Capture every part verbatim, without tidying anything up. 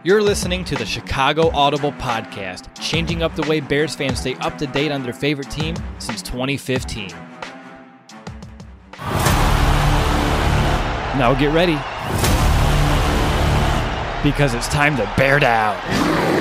You're listening to the Chicago Audible Podcast, changing up the way Bears fans stay up to date on their favorite team since twenty fifteen. Now get ready, because it's time to bear down.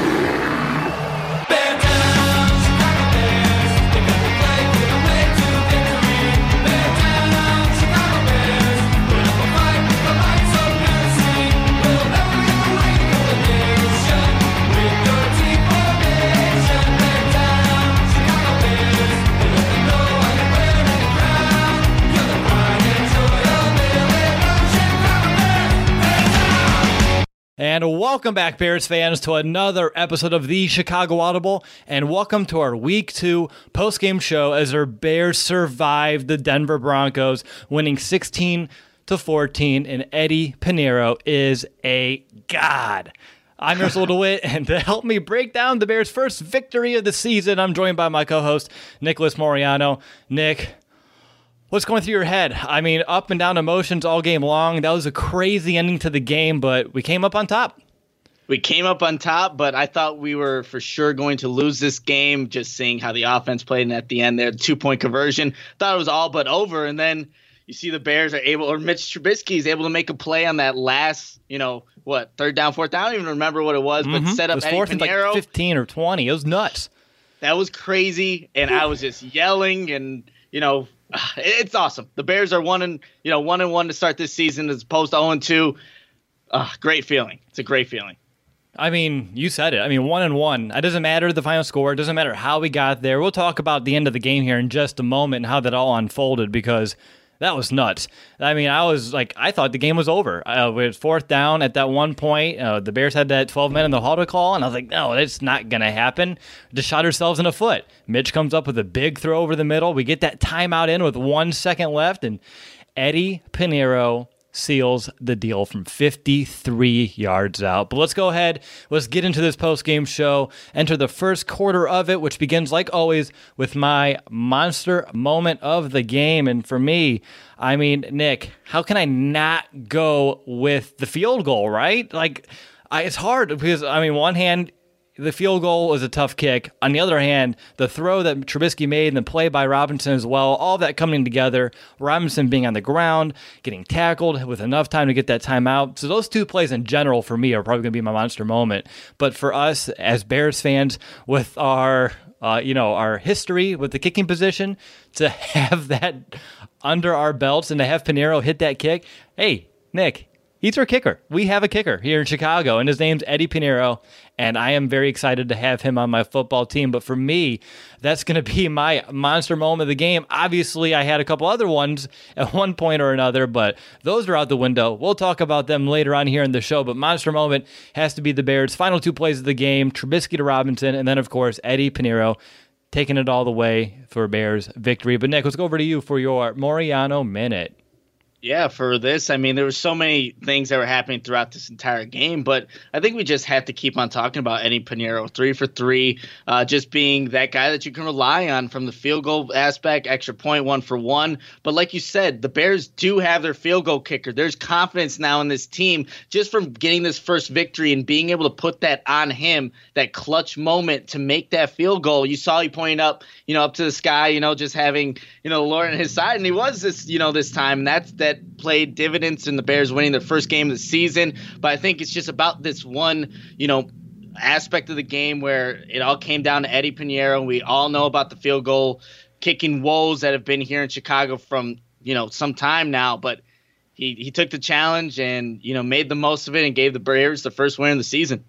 And welcome back, Bears fans, to another episode of the Chicago Audible, and welcome to our Week two post-game show as our Bears survived the Denver Broncos, winning sixteen to fourteen, and Eddie Piñeiro is a god. I'm Russell DeWitt, and to help me break down the Bears' first victory of the season, I'm joined by my co-host, Nicholas Moriano. Nick, what's going through your head? I mean, up and down emotions all game long. That was a crazy ending to the game, but we came up on top. We came up on top, but I thought we were for sure going to lose this game, just seeing how the offense played. And at the end there, the two-point conversion, thought it was all but over. And then you see the Bears are able, or Mitch Trubisky is able to make a play on that last, you know, what, third down, fourth down? I don't even remember what it was, but mm-hmm. set up it was Eddie fourth Piñeiro. And like fifteen or twenty. It was nuts. That was crazy, and I was just yelling, and, you know, it's awesome. The Bears are one and you know one and one to start this season as opposed to zero and two. Uh, great feeling. It's a great feeling. I mean, you said it. I mean, one and one. It doesn't matter the final score. It doesn't matter how we got there. We'll talk about the end of the game here in just a moment and how that all unfolded, because that was nuts. I mean, I was like, I thought the game was over. Uh, it was fourth down at that one point. Uh, the Bears had that twelve men in the huddle call, and I was like, no, that's not going to happen. Just shot ourselves in the foot. Mitch comes up with a big throw over the middle. We get that timeout in with one second left, and Eddie Piñeiro seals the deal from fifty-three yards out. But let's go ahead. Let's get into this post-game show. Enter the first quarter of it, which begins, like always, with my monster moment of the game. And for me, I mean, Nick, how can I not go with the field goal, right? Like, I, it's hard because, I mean, one hand, the field goal was a tough kick. On the other hand, the throw that Trubisky made and the play by Robinson as well, all that coming together, Robinson being on the ground, getting tackled with enough time to get that timeout. So those two plays in general for me are probably going to be my monster moment. But for us as Bears fans, with our uh, you know, our history with the kicking position, to have that under our belts and to have Piñeiro hit that kick, hey, Nick, he's our kicker. We have a kicker here in Chicago, and his name's Eddie Piñeiro, and I am very excited to have him on my football team. But for me, that's going to be my monster moment of the game. Obviously, I had a couple other ones at one point or another, but those are out the window. We'll talk about them later on here in the show, but monster moment has to be the Bears' final two plays of the game, Trubisky to Robinson, and then, of course, Eddie Piñeiro taking it all the way for Bears victory. But, Nick, let's go over to you for your Moriano Minute. Yeah, for this, I mean, there were so many things that were happening throughout this entire game, but I think we just have to keep on talking about Eddie Piñeiro, three for three, uh, just being that guy that you can rely on from the field goal aspect, extra point, one for one. But like you said, the Bears do have their field goal kicker. There's confidence now in this team just from getting this first victory and being able to put that on him, that clutch moment to make that field goal. You saw he pointed up, you know, up to the sky, you know, just having, you know, the Lord on his side, and he was this, you know, this time, and that's that. Played dividends in the Bears winning their first game of the season. But I think it's just about this one, you know, aspect of the game where it all came down to Eddie Piñeiro. We all know about the field goal kicking woes that have been here in Chicago from, you know, some time now. But he, he took the challenge and, you know, made the most of it and gave the Bears the first win of the season.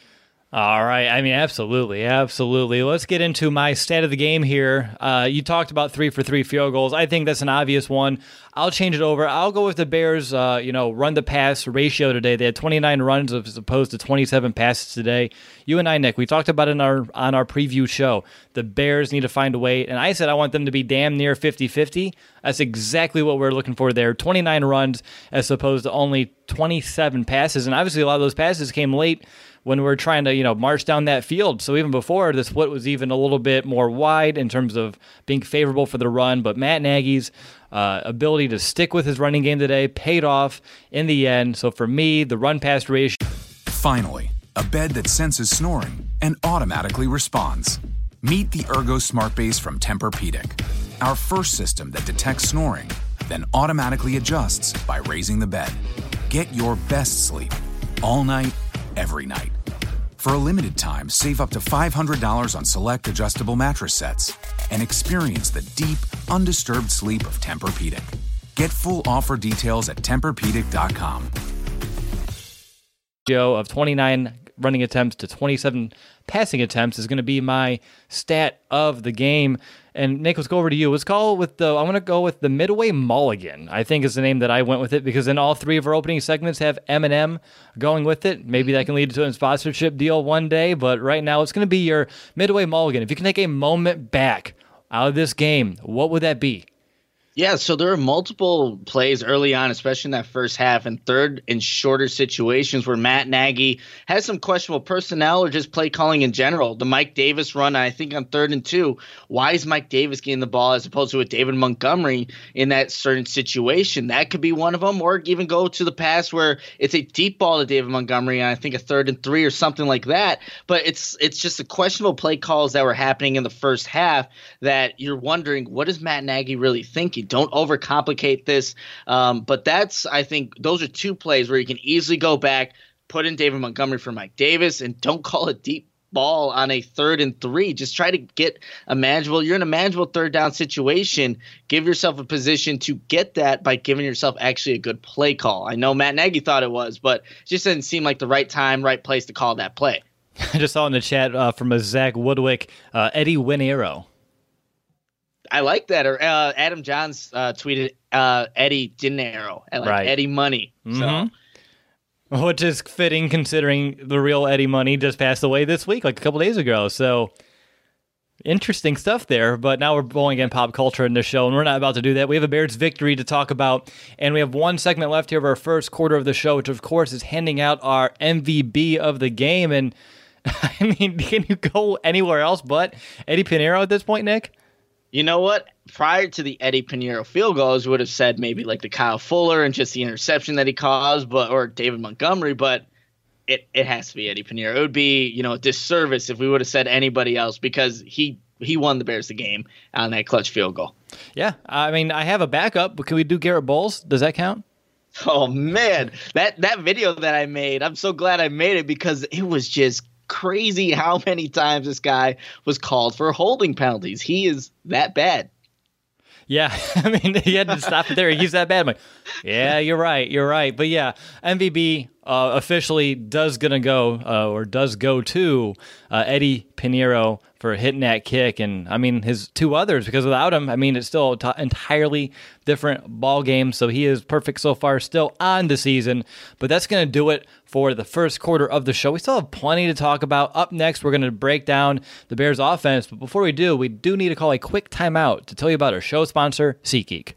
All right. I mean, absolutely. Absolutely. Let's get into my stat of the game here. Uh, you talked about three for three field goals. I think that's an obvious one. I'll change it over. I'll go with the Bears, uh, you know, run the pass ratio today. They had twenty-nine runs as opposed to twenty-seven passes today. You and I, Nick, we talked about it in our, on our preview show. The Bears need to find a way. And I said I want them to be damn near fifty-fifty. That's exactly what we're looking for there. twenty-nine runs as opposed to only twenty-seven passes. And obviously a lot of those passes came late when we we're trying to, you know, march down that field. So even before, the split was even a little bit more wide in terms of being favorable for the run. But Matt Nagy's uh, ability to stick with his running game today paid off in the end. So for me, the run-pass ratio. Finally, a bed that senses snoring and automatically responds. Meet the Ergo Smart Base from Tempur-Pedic, our first system that detects snoring, then automatically adjusts by raising the bed. Get your best sleep all night, every night. For a limited time, save up to five hundred dollars on select adjustable mattress sets and experience the deep, undisturbed sleep of Tempur-Pedic. Get full offer details at Tempur Pedic dot com. Of twenty-nine running attempts to twenty-seven passing attempts is going to be my stat of the game. And Nick, let's go over to you. Let's call with the, I'm going to go with the Midway Mulligan, I think is the name that I went with it, because in all three of our opening segments have Eminem going with it. Maybe that can lead to a sponsorship deal one day, but right now it's going to be your Midway Mulligan. If you can take a moment back out of this game, what would that be? Yeah, so there are multiple plays early on, especially in that first half, and third and shorter situations where Matt Nagy has some questionable personnel or just play calling in general. The Mike Davis run, I think on third and two, why is Mike Davis getting the ball as opposed to a David Montgomery in that certain situation? That could be one of them, or even go to the pass where it's a deep ball to David Montgomery, and I think a third and three or something like that. But it's it's just the questionable play calls that were happening in the first half that you're wondering, what is Matt Nagy really thinking? Don't overcomplicate this. Um, but that's, I think, those are two plays where you can easily go back, put in David Montgomery for Mike Davis, and don't call a deep ball on a third and three. Just try to get a manageable. You're in a manageable third down situation. Give yourself a position to get that by giving yourself actually a good play call. I know Matt Nagy thought it was, but it just didn't seem like the right time, right place to call that play. I just saw in the chat uh, from a Zach Woodwick, uh, Eddie Winero. I like that. Or uh, Adam Johns uh, tweeted uh, Eddie Dinero, like right. Eddie Money. Mm-hmm. So, which is fitting considering the real Eddie Money just passed away this week, like a couple days ago. So interesting stuff there. But now we're going in pop culture in this show, and we're not about to do that. We have a Bears victory to talk about, and we have one segment left here of our first quarter of the show, which of course is handing out our M V P of the game. And I mean, can you go anywhere else but Eddie Pinheiro at this point, Nick? You know what? Prior to the Eddie Pinheiro field goals, would have said maybe like the Kyle Fuller and just the interception that he caused, but or David Montgomery, but it, it has to be Eddie Pinheiro. It would be, you know, a disservice if we would have said anybody else, because he he won the Bears the game on that clutch field goal. Yeah, I mean, I have a backup, but can we do Garrett Bowles? Does that count? Oh man, that that video that I made, I'm so glad I made it, because it was just crazy how many times this guy was called for holding penalties. He is that bad. Yeah, I mean, he had to stop it there. He's that bad. I'm like, yeah, you're right, you're right. But yeah, M V P uh, officially does gonna go uh, or does go to uh, Eddie Pinheiro for hitting that kick, and I mean his two others, because without him, I mean it's still an entirely different ball game. So he is perfect so far, still on the season. But that's gonna do it for the first quarter of the show. We still have plenty to talk about. Up next, we're gonna break down the Bears offense. But before we do, we do need to call a quick timeout to tell you about our show sponsor, SeatGeek.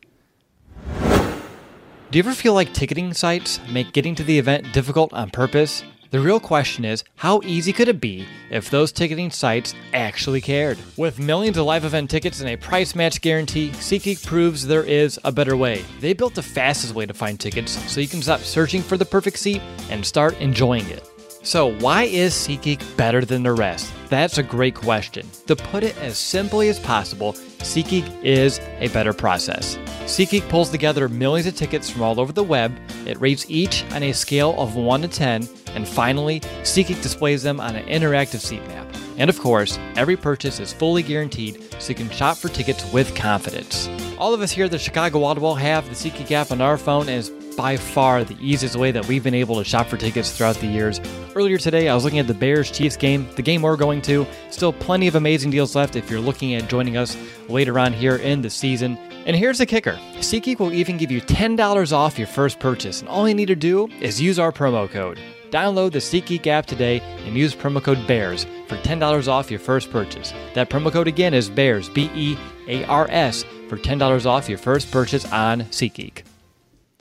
Do you ever feel like ticketing sites make getting to the event difficult on purpose? The real question is, how easy could it be if those ticketing sites actually cared? With millions of live event tickets and a price match guarantee, SeatGeek proves there is a better way. They built the fastest way to find tickets so you can stop searching for the perfect seat and start enjoying it. So why is SeatGeek better than the rest? That's a great question. To put it as simply as possible, SeatGeek is a better process. SeatGeek pulls together millions of tickets from all over the web. It rates each on a scale of one to ten, and finally, SeatGeek displays them on an interactive seat map. And of course, every purchase is fully guaranteed, so you can shop for tickets with confidence. All of us here at the Chicago Audible have the SeatGeek app on our phone, and it's by far the easiest way that we've been able to shop for tickets throughout the years. Earlier today, I was looking at the Bears-Chiefs game, the game we're going to. Still plenty of amazing deals left if you're looking at joining us later on here in the season. And here's the kicker. SeatGeek will even give you ten dollars off your first purchase, and all you need to do is use our promo code. Download the SeatGeek app today and use promo code BEARS for ten dollars off your first purchase. That promo code again is BEARS, B E A R S, for ten dollars off your first purchase on SeatGeek.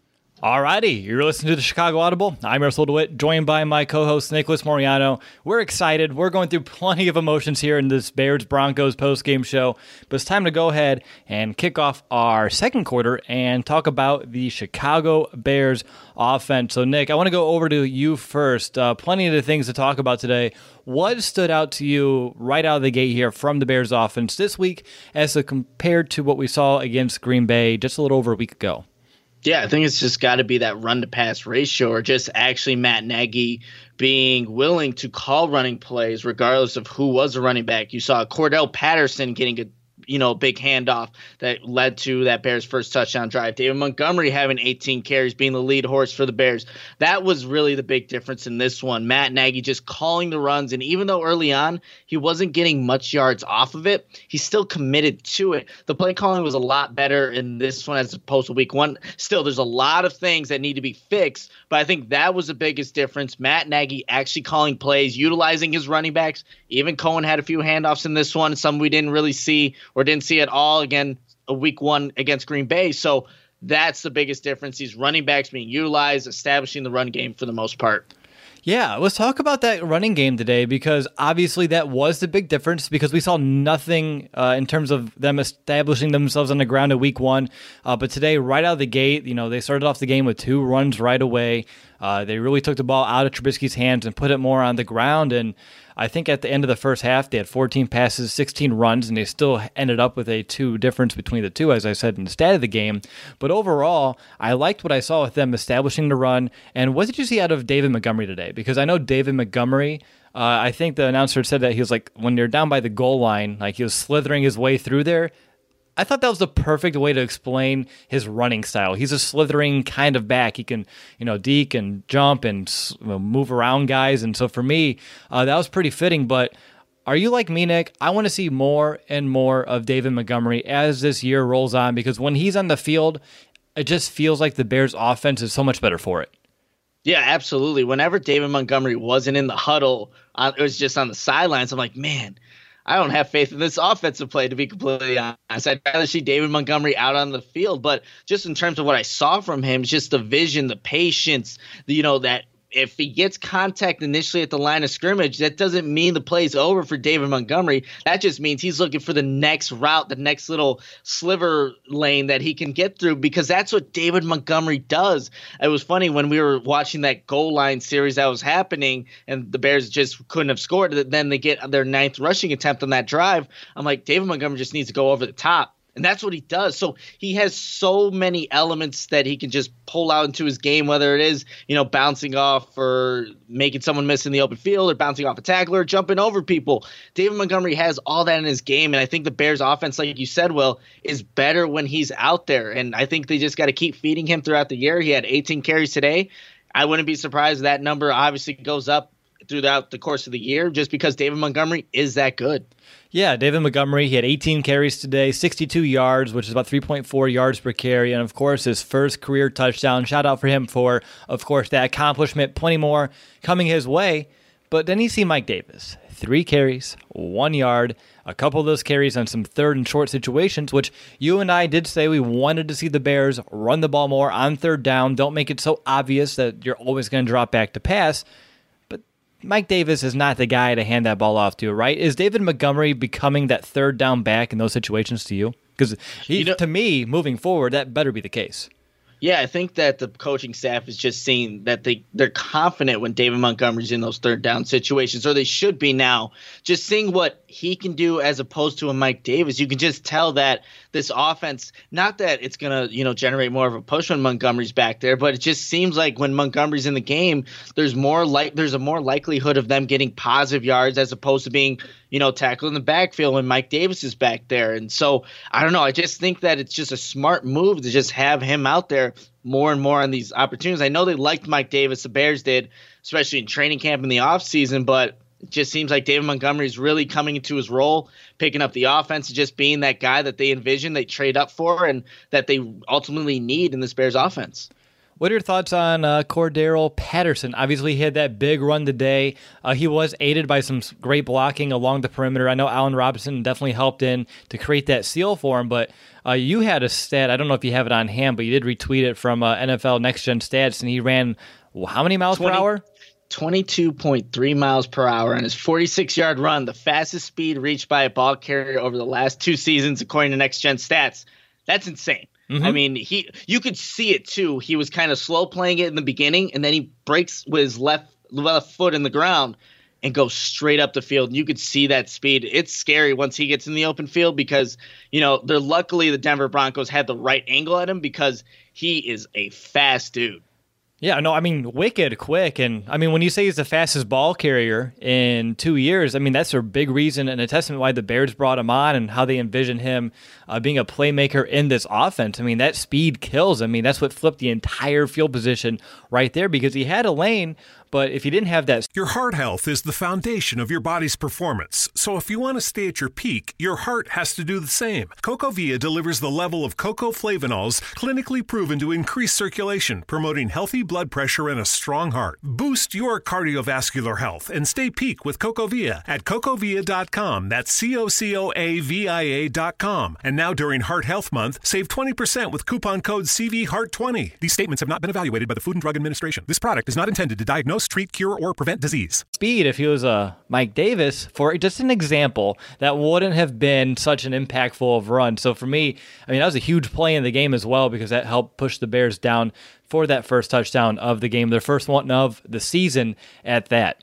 Alrighty, you're listening to the Chicago Audible. I'm Russell DeWitt, joined by my co-host Nicholas Moriano. We're excited. We're going through plenty of emotions here in this Bears-Broncos post-game show, but it's time to go ahead and kick off our second quarter and talk about the Chicago Bears offense. So, Nick, I want to go over to you first. Uh, plenty of the things to talk about today. What stood out to you right out of the gate here from the Bears offense this week as compared to what we saw against Green Bay just a little over a week ago? Yeah, I think it's just got to be that run-to-pass ratio, or just actually Matt Nagy being willing to call running plays regardless of who was a running back. You saw Cordell Patterson getting a you know, big handoff that led to that Bears first touchdown drive. David Montgomery having eighteen carries, being the lead horse for the Bears. That was really the big difference in this one. Matt Nagy just calling the runs, and even though early on he wasn't getting much yards off of it, he still committed to it. The play calling was a lot better in this one as opposed to week one. Still, there's a lot of things that need to be fixed, but I think that was the biggest difference. Matt Nagy actually calling plays, utilizing his running backs. Even Cohen had a few handoffs in this one, some we didn't really see or didn't see at all again a week one against Green Bay. So that's the biggest difference. These running backs being utilized, establishing the run game for the most part. Yeah, let's talk about that running game today, because obviously that was the big difference, because we saw nothing uh, in terms of them establishing themselves on the ground in week one. Uh, but today, right out of the gate, you know, they started off the game with two runs right away. Uh, they really took the ball out of Trubisky's hands and put it more on the ground. And I think at the end of the first half, they had fourteen passes, sixteen runs, and they still ended up with a two difference between the two, as I said in the stat of the game. But overall, I liked what I saw with them establishing the run. And what did you see out of David Montgomery today? Because I know David Montgomery, uh, I think the announcer said that he was like, when you're down by the goal line, like he was slithering his way through there. I thought that was the perfect way to explain his running style. He's a slithering kind of back. He can, you know, deke and jump and move around guys. And so for me, uh, that was pretty fitting. But are you like me, Nick? I want to see more and more of David Montgomery as this year rolls on, because when he's on the field, it just feels like the Bears' offense is so much better for it. Yeah, absolutely. Whenever David Montgomery wasn't in the huddle, uh, it was just on the sidelines. I'm like, man, I don't have faith in this offensive play, to be completely honest. I'd rather see David Montgomery out on the field. But just in terms of what I saw from him, just the vision, the patience, the, you know, that if he gets contact initially at the line of scrimmage, that doesn't mean the play's over for David Montgomery. That just means he's looking for the next route, the next little sliver lane that he can get through, because that's what David Montgomery does. It was funny when we were watching that goal line series that was happening and the Bears just couldn't have scored. Then they get their ninth rushing attempt on that drive. I'm like, David Montgomery just needs to go over the top. And that's what he does. So he has so many elements that he can just pull out into his game, whether it is, you know, bouncing off or making someone miss in the open field, or bouncing off a tackler, or jumping over people. David Montgomery has all that in his game. And I think the Bears offense, like you said, Will, is better when he's out there. And I think they just got to keep feeding him throughout the year. He had eighteen carries today. I wouldn't be surprised if that number obviously goes up throughout the course of the year, just because David Montgomery is that good. Yeah, David Montgomery, he had eighteen carries today, sixty-two yards, which is about three point four yards per carry, and of course his first career touchdown. Shout out for him for, of course, that accomplishment. Plenty more coming his way. But then you see Mike Davis, three carries, one yard, a couple of those carries on some third and short situations, which you and I did say we wanted to see the Bears run the ball more on third down. Don't make it so obvious that you're always going to drop back to pass. Mike Davis is not the guy to hand that ball off to, right? Is David Montgomery becoming that third down back in those situations to you? Because you know, to me, moving forward, that better be the case. Yeah, I think that the coaching staff is just seeing that they, they're confident when David Montgomery's in those third down situations, or they should be now. Just seeing what he can do as opposed to a Mike Davis, you can just tell that this offense, not that it's going to, you know, generate more of a push when Montgomery's back there, but it just seems like when Montgomery's in the game, there's more like there's a more likelihood of them getting positive yards as opposed to being, you know, tackled in the backfield when Mike Davis is back there. And so I don't know. I just think that it's just a smart move to just have him out there more and more on these opportunities. I know they liked Mike Davis, the Bears did, especially in training camp in the offseason, but it just seems like David Montgomery is really coming into his role, picking up the offense, and just being that guy that they envision, they trade up for, and that they ultimately need in this Bears offense. What are your thoughts on uh, Cordero Patterson? Obviously, he had that big run today. Uh, he was aided by some great blocking along the perimeter. I know Allen Robinson definitely helped in to create that seal for him, but uh, you had a stat, I don't know if you have it on hand, but you did retweet it from uh, N F L Next Gen Stats, and he ran well, how many miles twenty, per hour? twenty-two point three miles per hour on his forty-six-yard run, the fastest speed reached by a ball carrier over the last two seasons, according to Next Gen Stats. That's insane. Mm-hmm. I mean, he you could see it too. He was kind of slow playing it in the beginning, and then he breaks with his left left foot in the ground and goes straight up the field. And you could see that speed. It's scary once he gets in the open field because, you know, they're luckily the Denver Broncos had the right angle at him because he is a fast dude. Yeah, no, I mean, wicked quick. And, I mean, when you say he's the fastest ball carrier in two years, I mean, that's a big reason and a testament why the Bears brought him on and how they envision him uh, being a playmaker in this offense. I mean, that speed kills. I mean, that's what flipped the entire field position right there because he had a lane, but if he didn't have that... Your heart health is the foundation of your body's performance. So if you want to stay at your peak, your heart has to do the same. CocoVia delivers the level of cocoa flavanols clinically proven to increase circulation, promoting healthy blood pressure and a strong heart. Boost your cardiovascular health and stay peak with CocoVia at cocovia dot com. That's C O C O A V I A dot com. And now during Heart Health Month, save twenty percent with coupon code C V Heart twenty. These statements have not been evaluated by the Food and Drug Administration. This product is not intended to diagnose, treat, cure, or prevent disease. Speed, if he was a Mike Davis, for just an example, that wouldn't have been such an impactful of run. So for me, I mean, that was a huge play in the game as well because that helped push the Bears down for that first touchdown of the game, their first one of the season at that.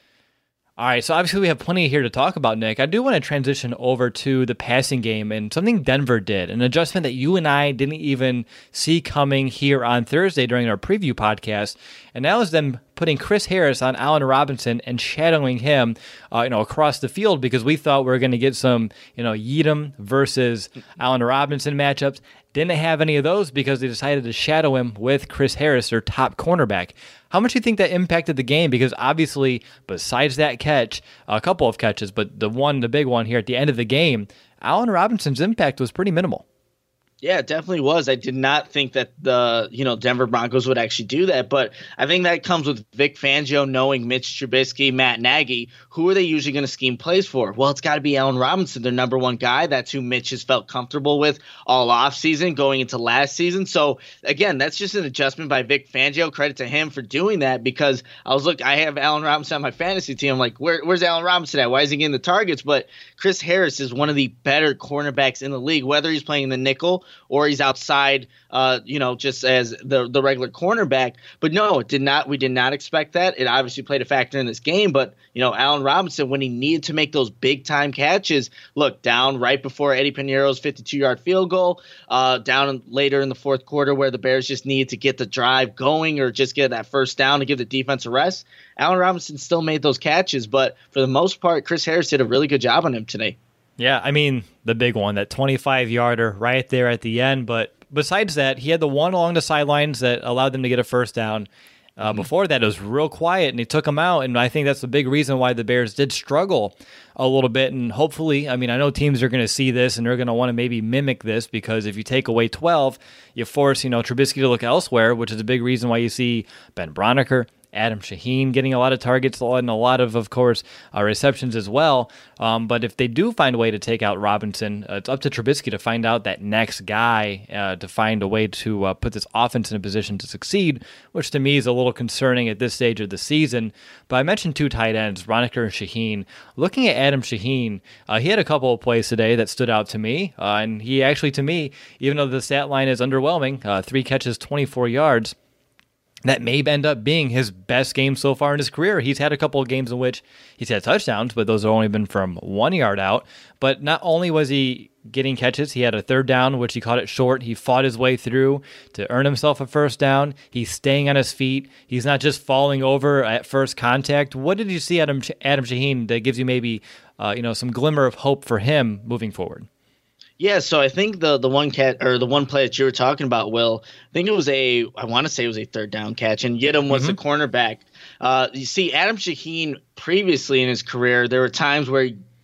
All right, so obviously we have plenty here to talk about, Nick. I do want to transition over to the passing game and something Denver did, an adjustment that you and I didn't even see coming here on Thursday during our preview podcast, and that was them putting Chris Harris on Allen Robinson and shadowing him, uh, you know, across the field because we thought we were going to get some, you know, Yeadham versus Allen Robinson matchups. Didn't have any of those because they decided to shadow him with Chris Harris, their top cornerback. How much do you think that impacted the game? Because obviously, besides that catch, a couple of catches, but the one, the big one here at the end of the game, Allen Robinson's impact was pretty minimal. Yeah, it definitely was. I did not think that the, you know, Denver Broncos would actually do that, but I think that comes with Vic Fangio knowing Mitch Trubisky, Matt Nagy. Who are they usually going to scheme plays for? Well, it's got to be Allen Robinson, their number one guy. That's who Mitch has felt comfortable with all offseason going into last season. So, again, that's just an adjustment by Vic Fangio. Credit to him for doing that because I was look, I have Allen Robinson on my fantasy team. I'm like, Where, where's Allen Robinson at? Why is he getting the targets? But Chris Harris is one of the better cornerbacks in the league, whether he's playing the nickel or he's outside, uh, you know, just as the the regular cornerback. But no, it did not. We did not expect that. It obviously played a factor in this game. But, you know, Allen Robinson, when he needed to make those big-time catches, look, down right before Eddie Piñeiro's fifty-two-yard field goal, uh, down later in the fourth quarter where the Bears just needed to get the drive going or just get that first down to give the defense a rest, Allen Robinson still made those catches. But for the most part, Chris Harris did a really good job on him today. Yeah, I mean, the big one, that twenty-five-yarder right there at the end. But besides that, he had the one along the sidelines that allowed them to get a first down. Uh, mm-hmm. Before that, it was real quiet, and he took him out. And I think that's the big reason why the Bears did struggle a little bit. And hopefully, I mean, I know teams are going to see this, and they're going to want to maybe mimic this because if you take away twelve, you force, you know, Trubisky to look elsewhere, which is a big reason why you see Ben Broniker, Adam Shaheen getting a lot of targets and a lot of, of course, uh, receptions as well. Um, but if they do find a way to take out Robinson, uh, it's up to Trubisky to find out that next guy uh, to find a way to uh, put this offense in a position to succeed, which to me is a little concerning at this stage of the season. But I mentioned two tight ends, Broniker and Shaheen. Looking at Adam Shaheen, uh, he had a couple of plays today that stood out to me. Uh, and he actually, to me, even though the stat line is underwhelming, uh, three catches, twenty-four yards, that may end up being his best game so far in his career. He's had a couple of games in which he's had touchdowns, but those have only been from one yard out. But not only was he getting catches, he had a third down, which he caught it short. He fought his way through to earn himself a first down. He's staying on his feet. He's not just falling over at first contact. What did you see Adam Adam Shaheen that gives you maybe uh, you know some glimmer of hope for him moving forward? Yeah, so I think the the one cat or the one play that you were talking about, Will, I think it was a I want to say it was a third down catch, and Yeadham was mm-hmm. the cornerback. Uh, you see, Adam Shaheen previously in his career, there were times where he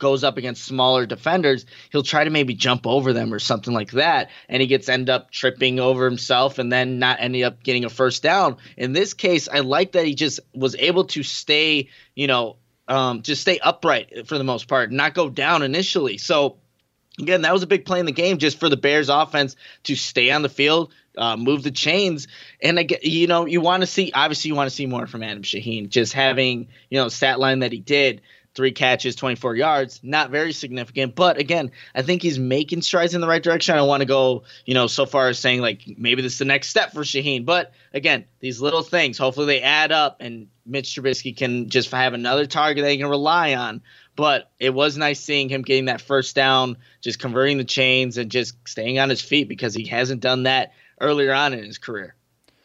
goes up against smaller defenders, he'll try to maybe jump over them or something like that, and he gets end up tripping over himself and then not ending up getting a first down. In this case, I like that he just was able to stay, you know, um, just stay upright for the most part, not go down initially. So again, that was a big play in the game just for the Bears offense to stay on the field, uh, move the chains. And, again, you know, you want to see – obviously you want to see more from Adam Shaheen. Just having, you know, stat line that he did, three catches, twenty-four yards, not very significant. But, again, I think he's making strides in the right direction. I don't want to go, you know, so far as saying, like, maybe this is the next step for Shaheen. But, again, these little things, hopefully they add up and Mitch Trubisky can just have another target that he can rely on. But it was nice seeing him getting that first down, just converting the chains and just staying on his feet because he hasn't done that earlier on in his career.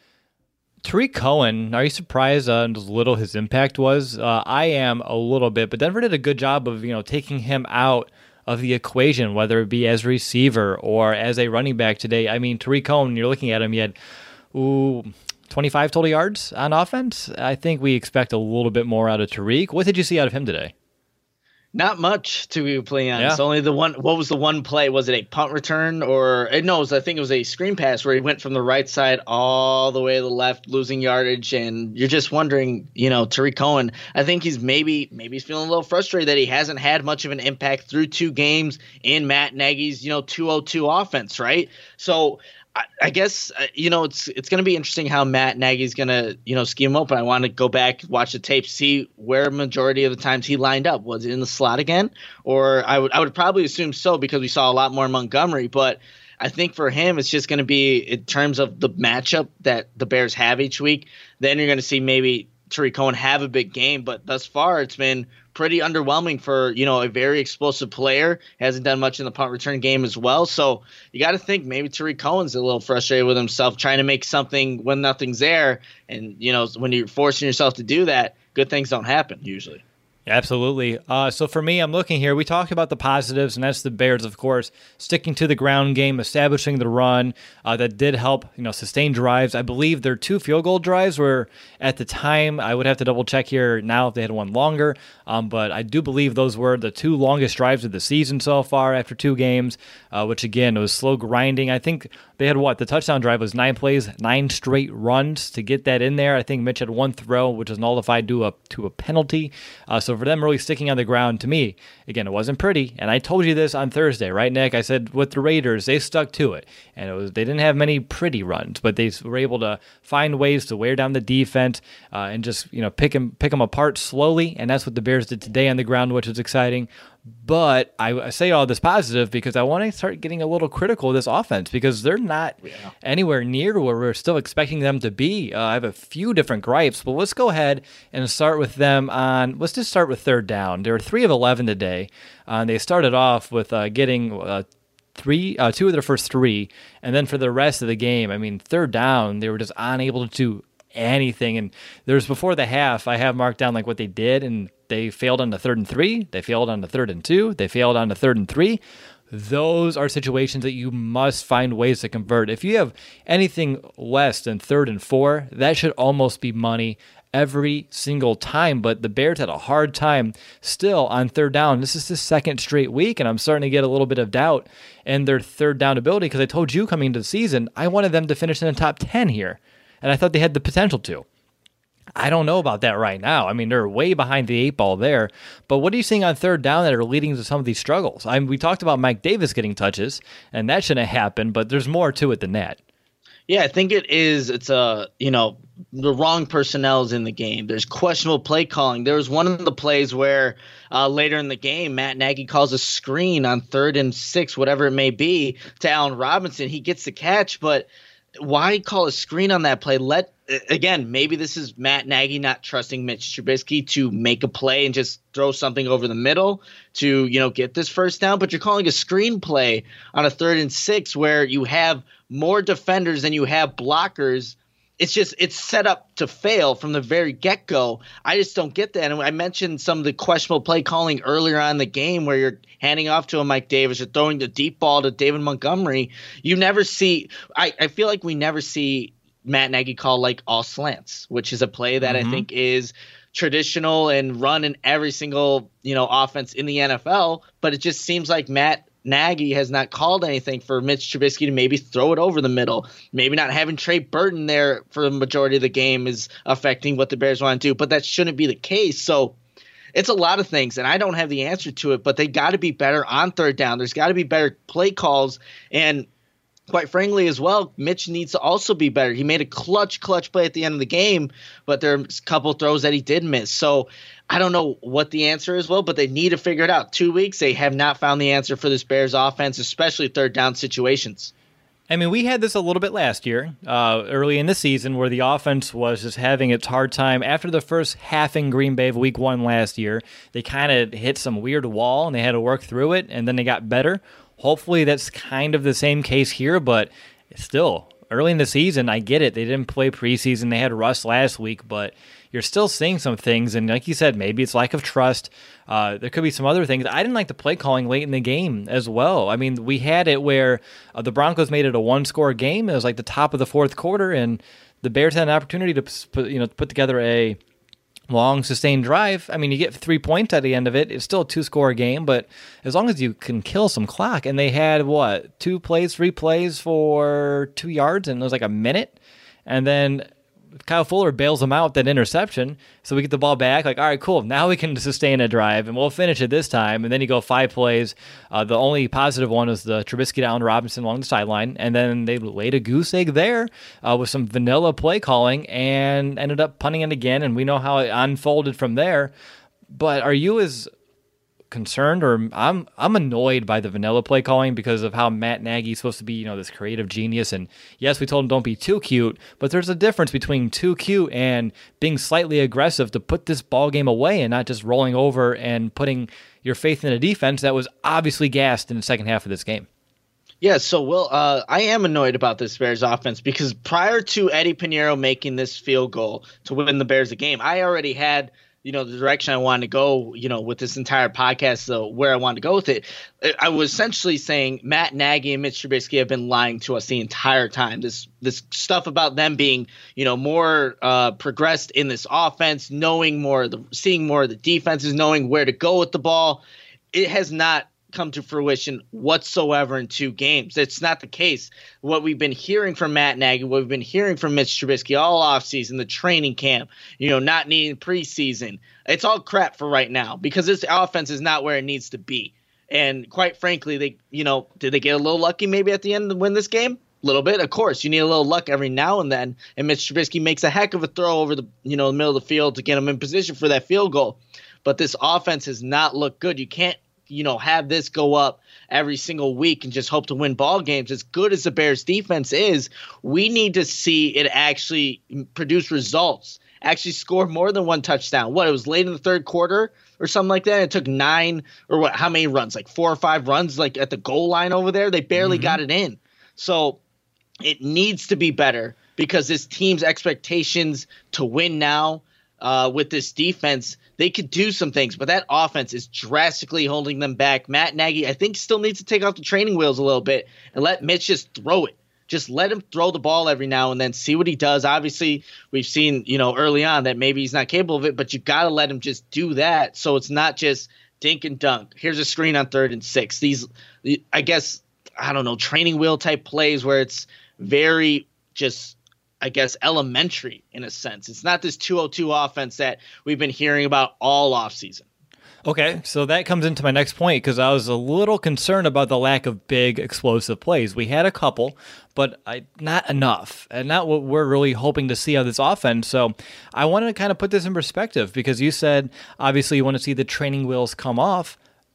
Tariq Cohen, are you surprised uh, how little his impact was? Uh, I am a little bit, but Denver did a good job of, you know, taking him out of the equation, whether it be as a receiver or as a running back today. I mean, Tariq Cohen, you're looking at him, he had, ooh, twenty-five total yards on offense. I think we expect a little bit more out of Tariq. What did you see out of him today? Not much, to be completely honest. Yeah. Only the one. What was the one play? Was it a punt return or no? It was, I think it was a screen pass where he went from the right side all the way to the left, losing yardage. And you're just wondering, you know, Tariq Cohen. I think he's maybe maybe he's feeling a little frustrated that he hasn't had much of an impact through two games in Matt Nagy's, you know, two oh two offense, right? So I, I guess uh, you know it's it's going to be interesting how Matt Nagy's going to you know scheme him up. I want to go back, watch the tape, see where majority of the times he lined up. Was it in the slot again, or I would I would probably assume so because we saw a lot more Montgomery. But I think for him, it's just going to be in terms of the matchup that the Bears have each week. Then you're going to see maybe Tariq Cohen have a big game, but thus far it's been pretty underwhelming for, you know, a very explosive player. Hasn't done much in the punt return game as well. So you got to think maybe Tariq Cohen's a little frustrated with himself, trying to make something when nothing's there. And, you know, when you're forcing yourself to do that, good things don't happen usually. Absolutely. Uh, so for me, I'm looking here. We talked about the positives, and that's the Bears, of course, sticking to the ground game, establishing the run. Uh, that did help, you know, sustain drives. I believe their two field goal drives were at the time. I would have to double check here now if they had one longer. Um, but I do believe those were the two longest drives of the season so far after two games. Uh, which again, it was slow grinding. I think they had what the touchdown drive was nine plays, nine straight runs to get that in there. I think Mitch had one throw, which was nullified to a to a penalty. Uh, so for them really sticking on the ground, to me, again, it wasn't pretty. And I told you this on Thursday, right, Nick? I said with the Raiders, they stuck to it. And it was they didn't have many pretty runs, but they were able to find ways to wear down the defense uh, and just, you know, pick them, pick them apart slowly. And that's what the Bears did today on the ground, which was exciting. But I say all this positive because I want to start getting a little critical of this offense because they're not yeah. anywhere near where we're still expecting them to be. Uh, I have a few different gripes, but let's go ahead and start with them on, let's just start with third down. They were three of eleven today. Uh, they started off with uh, getting uh, three, uh, two of their first three, and then for the rest of the game, I mean, third down, they were just unable to do anything. And there's before the half, I have marked down like what they did, and they failed on the third and three. They failed on the third and two. They failed on the third and three. Those are situations that you must find ways to convert. If you have anything less than third and four, that should almost be money every single time. But the Bears had a hard time still on third down. This is the second straight week, and I'm starting to get a little bit of doubt in their third down ability because I told you coming into the season, I wanted them to finish in the top ten here, and I thought they had the potential to. I don't know about that right now. I mean, they're way behind the eight ball there. But what are you seeing on third down that are leading to some of these struggles? I mean, we talked about Mike Davis getting touches, and that shouldn't happen, but there's more to it than that. Yeah, I think it is. It's a, you know, the wrong personnel is in the game. There's questionable play calling. There was one of the plays where uh, later in the game, Matt Nagy calls a screen on third and six, whatever it may be, to Allen Robinson. He gets the catch, but why call a screen on that play? Let Again, maybe this is Matt Nagy not trusting Mitch Trubisky to make a play and just throw something over the middle to, you know, get this first down. But you're calling a screen play on a third and six where you have more defenders than you have blockers. It's just it's set up to fail from the very get-go. I just don't get that. And I mentioned some of the questionable play calling earlier on in the game where you're handing off to a Mike Davis or throwing the deep ball to David Montgomery. You never see I, – I feel like we never see Matt Nagy call like all slants, which is a play that mm-hmm. I think is traditional and run in every single, you know, offense in the N F L, but it just seems like Matt Nagy has not called anything for Mitch Trubisky to maybe throw it over the middle. Maybe not having Trey Burton there for the majority of the game is affecting what the Bears want to do, but that shouldn't be the case. So it's a lot of things, and I don't have the answer to it, but they got to be better on third down. There's got to be better play calls, and quite frankly as well, Mitch needs to also be better. He made a clutch, clutch play at the end of the game, but there's a couple throws that he did miss. So I don't know what the answer is, well, but they need to figure it out. Two weeks, they have not found the answer for this Bears offense, especially third down situations. I mean, we had this a little bit last year, uh, early in the season, where the offense was just having its hard time. After the first half in Green Bay of week one last year, they kind of hit some weird wall, and they had to work through it, and then they got better. Hopefully that's kind of the same case here, but still, early in the season, I get it. They didn't play preseason. They had Russ last week, but you're still seeing some things, and like you said, maybe it's lack of trust. Uh, there could be some other things. I didn't like the play calling late in the game as well. I mean, we had it where uh, the Broncos made it a one-score game. It was like the top of the fourth quarter, and the Bears had an opportunity to put, you know, put together a long, sustained drive. I mean, you get three points at the end of it. It's still a two-score game, but as long as you can kill some clock, and they had, what, two plays, three plays for two yards, and it was like a minute, and then Kyle Fuller bails them out that interception, so we get the ball back. Like, all right, cool. Now we can sustain a drive, and we'll finish it this time. And then you go five plays. Uh, the only positive one was the Trubisky to Allen Robinson along the sideline, and then they laid a goose egg there uh, with some vanilla play calling and ended up punting it again, and we know how it unfolded from there. But are you as concerned, or I'm I'm annoyed by the vanilla play calling because of how Matt Nagy is supposed to be, you know, this creative genius. And yes, we told him don't be too cute, but there's a difference between too cute and being slightly aggressive to put this ball game away and not just rolling over and putting your faith in a defense that was obviously gassed in the second half of this game. Yeah, so Will, uh, I am annoyed about this Bears offense because prior to Eddie Pinheiro making this field goal to win the Bears a game, I already had, you know, the direction I wanted to go, you know, with this entire podcast, so where I wanted to go with it. I was essentially saying Matt Nagy and Mitch Trubisky have been lying to us the entire time. This this stuff about them being, you know, more uh, progressed in this offense, knowing more, of the, seeing more of the defenses, knowing where to go with the ball. It has not come to fruition whatsoever in two games. It's not the case. What we've been hearing from Matt Nagy, what we've been hearing from Mitch Trubisky all offseason, the training camp, you know, not needing preseason, it's all crap for right now because this offense is not where it needs to be. And quite frankly, they, you know, did they get a little lucky maybe at the end to win this game? A little bit, of course. You need a little luck every now and then. And Mitch Trubisky makes a heck of a throw over the, you know, the middle of the field to get him in position for that field goal. But this offense has not looked good. You can't, you know, have this go up every single week and just hope to win ball games. As good as the Bears defense is, we need to see it actually produce results, actually score more than one touchdown. What, it was late in the third quarter or something like that? It took nine or what, how many runs? Like four or five runs, like at the goal line over there. They barely mm-hmm. got it in. So it needs to be better because this team's expectations to win now uh, with this defense, they could do some things, but that offense is drastically holding them back. Matt Nagy, I think, still needs to take off the training wheels a little bit and let Mitch just throw it. Just let him throw the ball every now and then, see what he does. Obviously, we've seen, you know, early on that maybe he's not capable of it, but you got to let him just do that so it's not just dink and dunk. Here's a screen on third and six. These, I guess, I don't know, training wheel type plays where it's very just – I guess, elementary in a sense. It's not this two oh two offense that we've been hearing about all offseason. Okay, so that comes into my next point because I was a little concerned about the lack of big explosive plays. We had a couple, but I, not enough, and not what we're really hoping to see out of this offense. So I wanted to kind of put this in perspective because you said, obviously, you want to see the training wheels come off.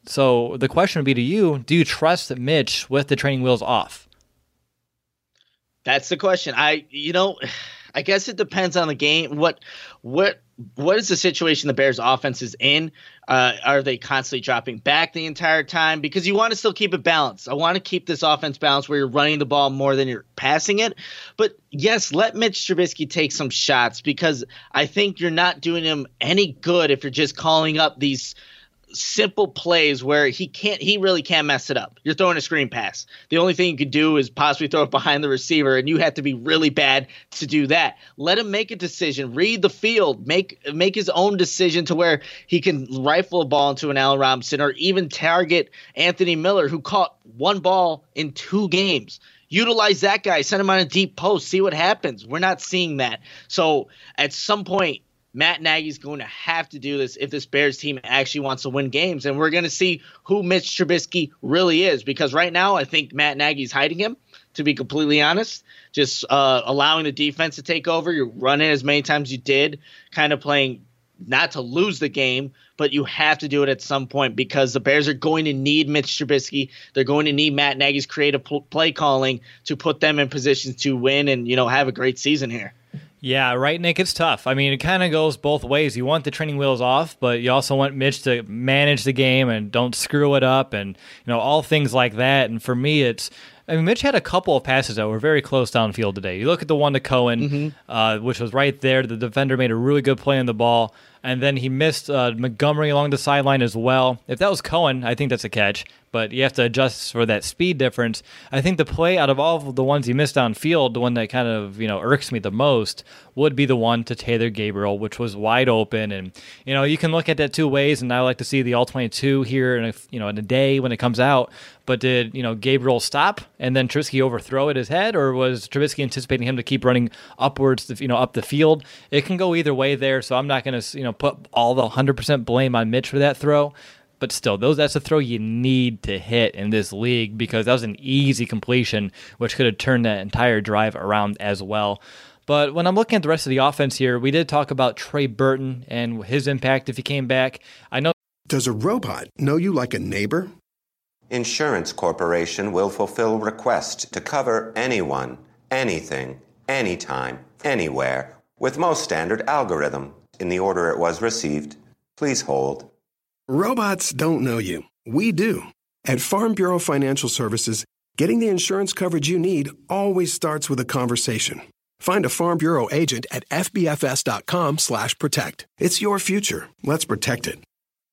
So the question would be to you, do you trust Mitch with the training wheels off? That's the question. I, you know, I guess it depends on the game. What, what, what is the situation the Bears offense is in? Uh, are they constantly dropping back the entire time? Because you want to still keep it balanced. I want to keep this offense balanced where you're running the ball more than you're passing it. But yes, let Mitch Trubisky take some shots because I think you're not doing him any good if you're just calling up these simple plays where he can't, he really can't mess it up. You're throwing a screen pass. The only thing you could do is possibly throw it behind the receiver, and you have to be really bad to do that. Let him make a decision, read the field, make make his own decision to where he can rifle a ball into an Allen Robinson or even target Anthony Miller, who caught one ball in two games. Utilize that guy, send him on a deep post, see what happens. We're not seeing that. So at some point, Matt Nagy's going to have to do this if this Bears team actually wants to win games. And we're going to see who Mitch Trubisky really is, because right now I think Matt Nagy's hiding him, to be completely honest, just uh, allowing the defense to take over. You're running as many times as you did, kind of playing not to lose the game, but you have to do it at some point because the Bears are going to need Mitch Trubisky. They're going to need Matt Nagy's creative pl- play calling to put them in positions to win and, you know, have a great season here. Yeah, right, Nick, it's tough. I mean, it kind of goes both ways. You want the training wheels off, but you also want Mitch to manage the game and don't screw it up and, you know, all things like that. And for me, it's, I mean, Mitch had a couple of passes that were very close downfield today. You look at the one to Cohen, mm-hmm. uh, which was right there. The defender made a really good play on the ball, and then he missed uh, Montgomery along the sideline as well. If that was Cohen, I think that's a catch, but you have to adjust for that speed difference. I think the play out of all of the ones he missed downfield, the one that kind of, you know, irks me the most would be the one to Taylor Gabriel, which was wide open. And, you know, you can look at that two ways, and I like to see the all twenty-two here in a, you know, in a day when it comes out. But did, you know, Gabriel stop and then Trubisky overthrow at his head, or was Trubisky anticipating him to keep running upwards, to, you know, up the field? It can go either way there, so I'm not going to, you know, put all the one hundred percent blame on Mitch for that throw. But still, those that's a throw you need to hit in this league, because that was an easy completion, which could have turned that entire drive around as well. But when I'm looking at the rest of the offense here, we did talk about Trey Burton and his impact if he came back. I know. Does a robot know you like a neighbor? Insurance Corporation will fulfill requests to cover anyone, anything, anytime, anywhere, with most standard algorithm in the order it was received. Please hold. Robots don't know you. We do. At Farm Bureau Financial Services, getting the insurance coverage you need always starts with a conversation. Find a Farm Bureau agent at fbfs.com slash protect. It's your future. Let's protect it.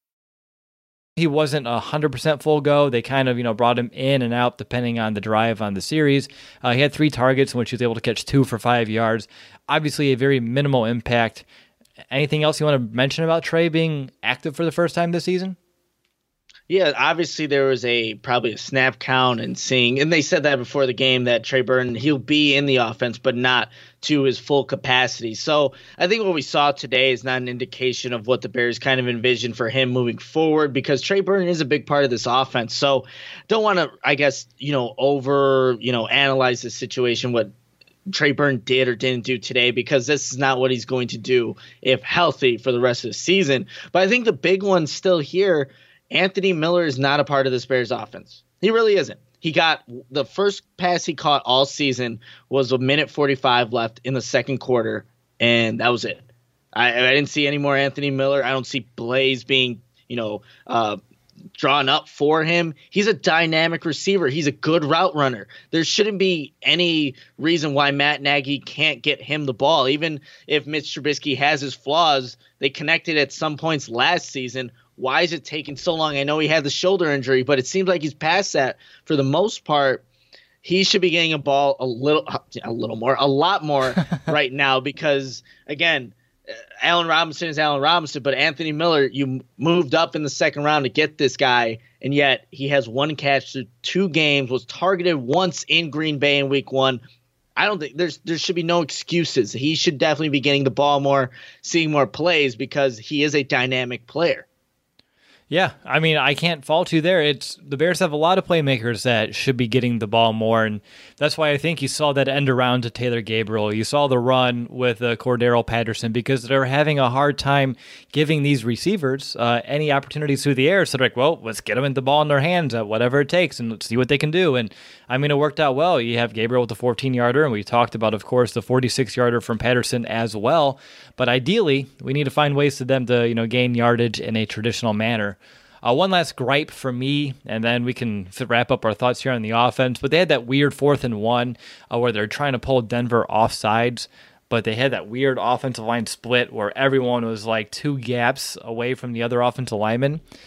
He wasn't one hundred percent full go. They kind of, you know, brought him in and out depending on the drive on the series. Uh, he had three targets in which he was able to catch two for five yards. Obviously a very minimal impact. Anything else you want to mention about Trey being active for the first time this season? Yeah, obviously there was a probably a snap count and seeing, and they said that before the game that Trey Burton, he'll be in the offense, but not to his full capacity. So I think what we saw today is not an indication of what the Bears kind of envision for him moving forward, because Trey Burton is a big part of this offense. So don't want to, I guess, you know, over, you know, analyze the situation, what Trey Burton did or didn't do today, because this is not what he's going to do if healthy for the rest of the season. But I think the big one still here, Anthony Miller is not a part of this Bears offense. He really isn't. He got the first pass he caught all season was a minute forty-five left in the second quarter, and that was it. I, I didn't see any more Anthony Miller. I don't see Blaze being, you know, uh, drawn up for him. He's a dynamic receiver. He's a good route runner. There shouldn't be any reason why Matt Nagy can't get him the ball. Even if Mitch Trubisky has his flaws, they connected at some points last season. Why is it taking so long? I know he had the shoulder injury, but it seems like he's past that for the most part. He should be getting a ball a little, a little more, a lot more right now, because again, Allen Robinson is Allen Robinson, but Anthony Miller, you moved up in the second round to get this guy, and yet he has one catch through two games, was targeted once in Green Bay in week one. I don't think there's there should be no excuses. He should definitely be getting the ball more, seeing more plays, because he is a dynamic player. Yeah, I mean, I can't fault you there. It's the Bears have a lot of playmakers that should be getting the ball more, and that's why I think you saw that end around to Taylor Gabriel. You saw the run with uh, Cordero Patterson, because they're having a hard time giving these receivers uh, any opportunities through the air. So they're like, well, let's get them the ball in their hands at whatever it takes, and let's see what they can do. And I mean, it worked out well. You have Gabriel with the fourteen-yarder, and we talked about, of course, the forty-six-yarder from Patterson as well. But ideally, we need to find ways for them to, you know, gain yardage in a traditional manner. Uh, one last gripe for me, and then we can wrap up our thoughts here on the offense. But they had that weird fourth and one uh, where they're trying to pull Denver off sides, but they had that weird offensive line split where everyone was like two gaps away from the other offensive lineman.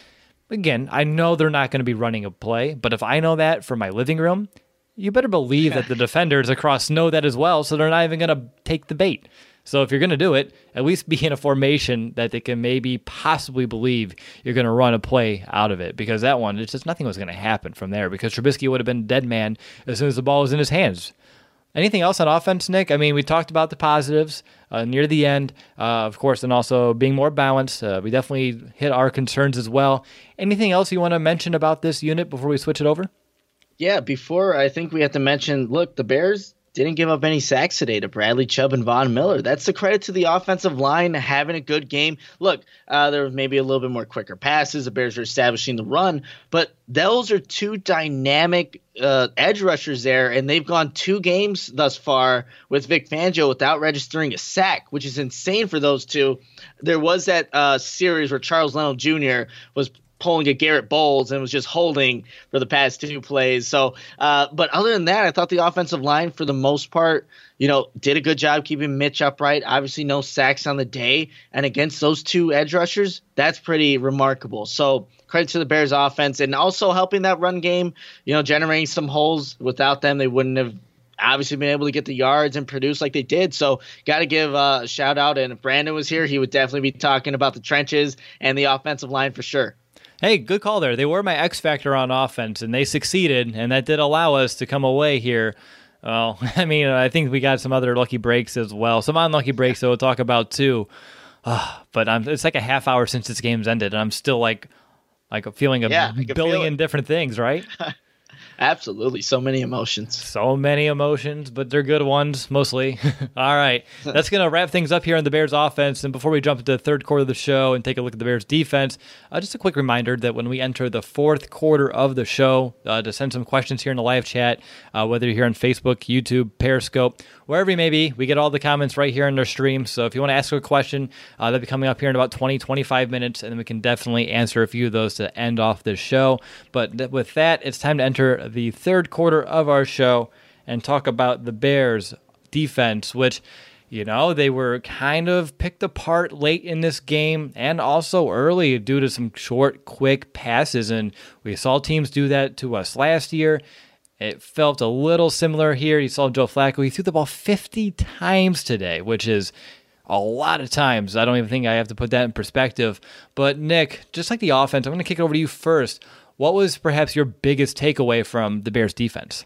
again, I know they're not going to be running a play, but if I know that from my living room, you better believe that the defenders across know that as well, so they're not even going to take the bait. So if you're going to do it, at least be in a formation that they can maybe possibly believe you're going to run a play out of it, because that one, it's just nothing was going to happen from there, because Trubisky would have been dead man as soon as the ball was in his hands. Anything else on offense, Nick? I mean, we talked about the positives uh, near the end, uh, of course, and also being more balanced. Uh, we definitely hit our concerns as well. Anything else you want to mention about this unit before we switch it over? Yeah, before I think we have to mention, look, the Bears didn't give up any sacks today to Bradley Chubb and Von Miller. That's the credit to the offensive line having a good game. Look, uh, there was maybe a little bit more quicker passes. The Bears are establishing the run, but those are two dynamic uh, edge rushers there, and they've gone two games thus far with Vic Fangio without registering a sack, which is insane for those two. There was that uh, series where Charles Leno Junior was pulling a Garrett Bowles and was just holding for the past two plays. So, uh, but other than that, I thought the offensive line, for the most part, you know, did a good job keeping Mitch upright. Obviously, no sacks on the day, and against those two edge rushers, that's pretty remarkable. So, credit to the Bears offense, and also helping that run game. You know, generating some holes. Without them, they wouldn't have obviously been able to get the yards and produce like they did. So got to give uh, a shout out. And if Brandon was here, he would definitely be talking about the trenches and the offensive line for sure. Hey, good call there. They were my X factor on offense, and they succeeded, and that did allow us to come away here. Well, I mean, I think we got some other lucky breaks as well. Some unlucky breaks that we'll talk about too. Uh, but I'm, it's like a half hour since this game's ended, and I'm still like, like a feeling of yeah, a billion different things, right? Absolutely. So many emotions. So many emotions, but they're good ones, mostly. All right. That's going to wrap things up here on the Bears offense. And before we jump into the third quarter of the show and take a look at the Bears defense, uh, just a quick reminder that when we enter the fourth quarter of the show, uh, to send some questions here in the live chat, uh, whether you're here on Facebook, YouTube, Periscope, wherever you may be, we get all the comments right here in our stream. So if you want to ask a question, uh, that'll be coming up here in about twenty, twenty-five minutes, and then we can definitely answer a few of those to end off this show. But th- with that, it's time to enter the third quarter of our show and talk about the Bears defense, which, you know, they were kind of picked apart late in this game and also early due to some short, quick passes. And we saw teams do that to us last year. It felt a little similar here. You saw Joe Flacco. He threw the ball fifty times today, which is a lot of times. I don't even think I have to put that in perspective. But Nick, just like the offense, I'm going to kick it over to you first. What was perhaps your biggest takeaway from the Bears defense?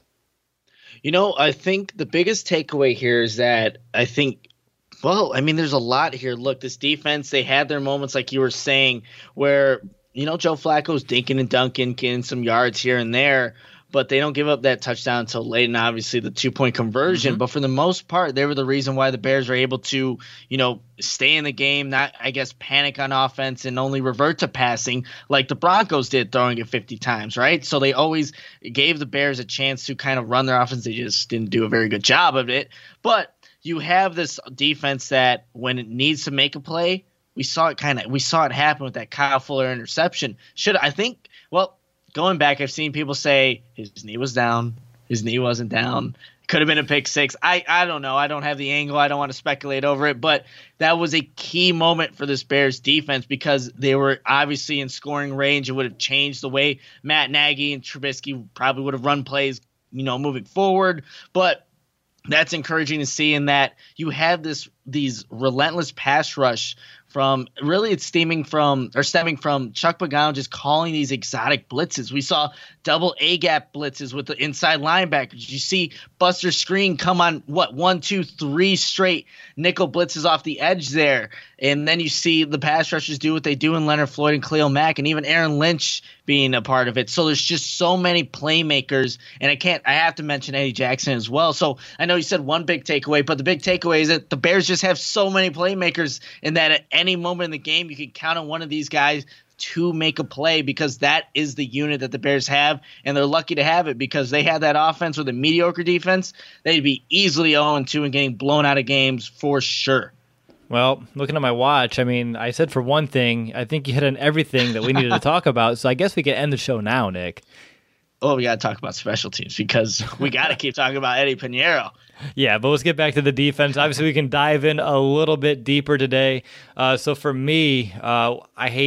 You know, I think the biggest takeaway here is that I think, well, I mean, there's a lot here. Look, this defense, they had their moments, like you were saying, where, you know, Joe Flacco's dinking and dunking, getting some yards here and there, but they don't give up that touchdown until late, and obviously the two-point conversion. Mm-hmm. But for the most part, they were the reason why the Bears were able to, you know, stay in the game, not, I guess, panic on offense and only revert to passing like the Broncos did, throwing it fifty times, right? So they always gave the Bears a chance to kind of run their offense. They just didn't do a very good job of it. But you have this defense that when it needs to make a play, we saw it kind of we saw it happen with that Kyle Fuller interception. Should I think, well, going back, I've seen people say his knee was down, his knee wasn't down. Could have been a pick six. I, I don't know. I don't have the angle. I don't want to speculate over it. But that was a key moment for this Bears defense because they were obviously in scoring range. It would have changed the way Matt Nagy and Trubisky probably would have run plays, you know, moving forward. But that's encouraging to see in that you have this these relentless pass rush from really it's stemming from or stemming from Chuck Pagano just calling these exotic blitzes. We saw double A gap blitzes with the inside linebackers. You see Buster Skrine come on what one, two, three straight nickel blitzes off the edge there, and then you see the pass rushers do what they do in Leonard Floyd and Khalil Mack, and even Aaron Lynch being a part of it. So there's just so many playmakers, and I can't. I have to mention Eddie Jackson as well. So I know you said one big takeaway, but the big takeaway is that the Bears just have so many playmakers, and that at any moment in the game you can count on one of these guys to make a play because that is the unit that the Bears have, and they're lucky to have it because they had that offense with a mediocre defense. They'd be easily oh and two and getting blown out of games for sure. Well, looking at my watch, I mean, I said for one thing, I think you hit on everything that we needed to talk about, so I guess we can end the show now, Nick. Oh, we got to talk about special teams because we got to keep talking about Eddie Piñeiro. Yeah, but let's get back to the defense. Obviously, we can dive in a little bit deeper today. Uh, so for me, uh, I hate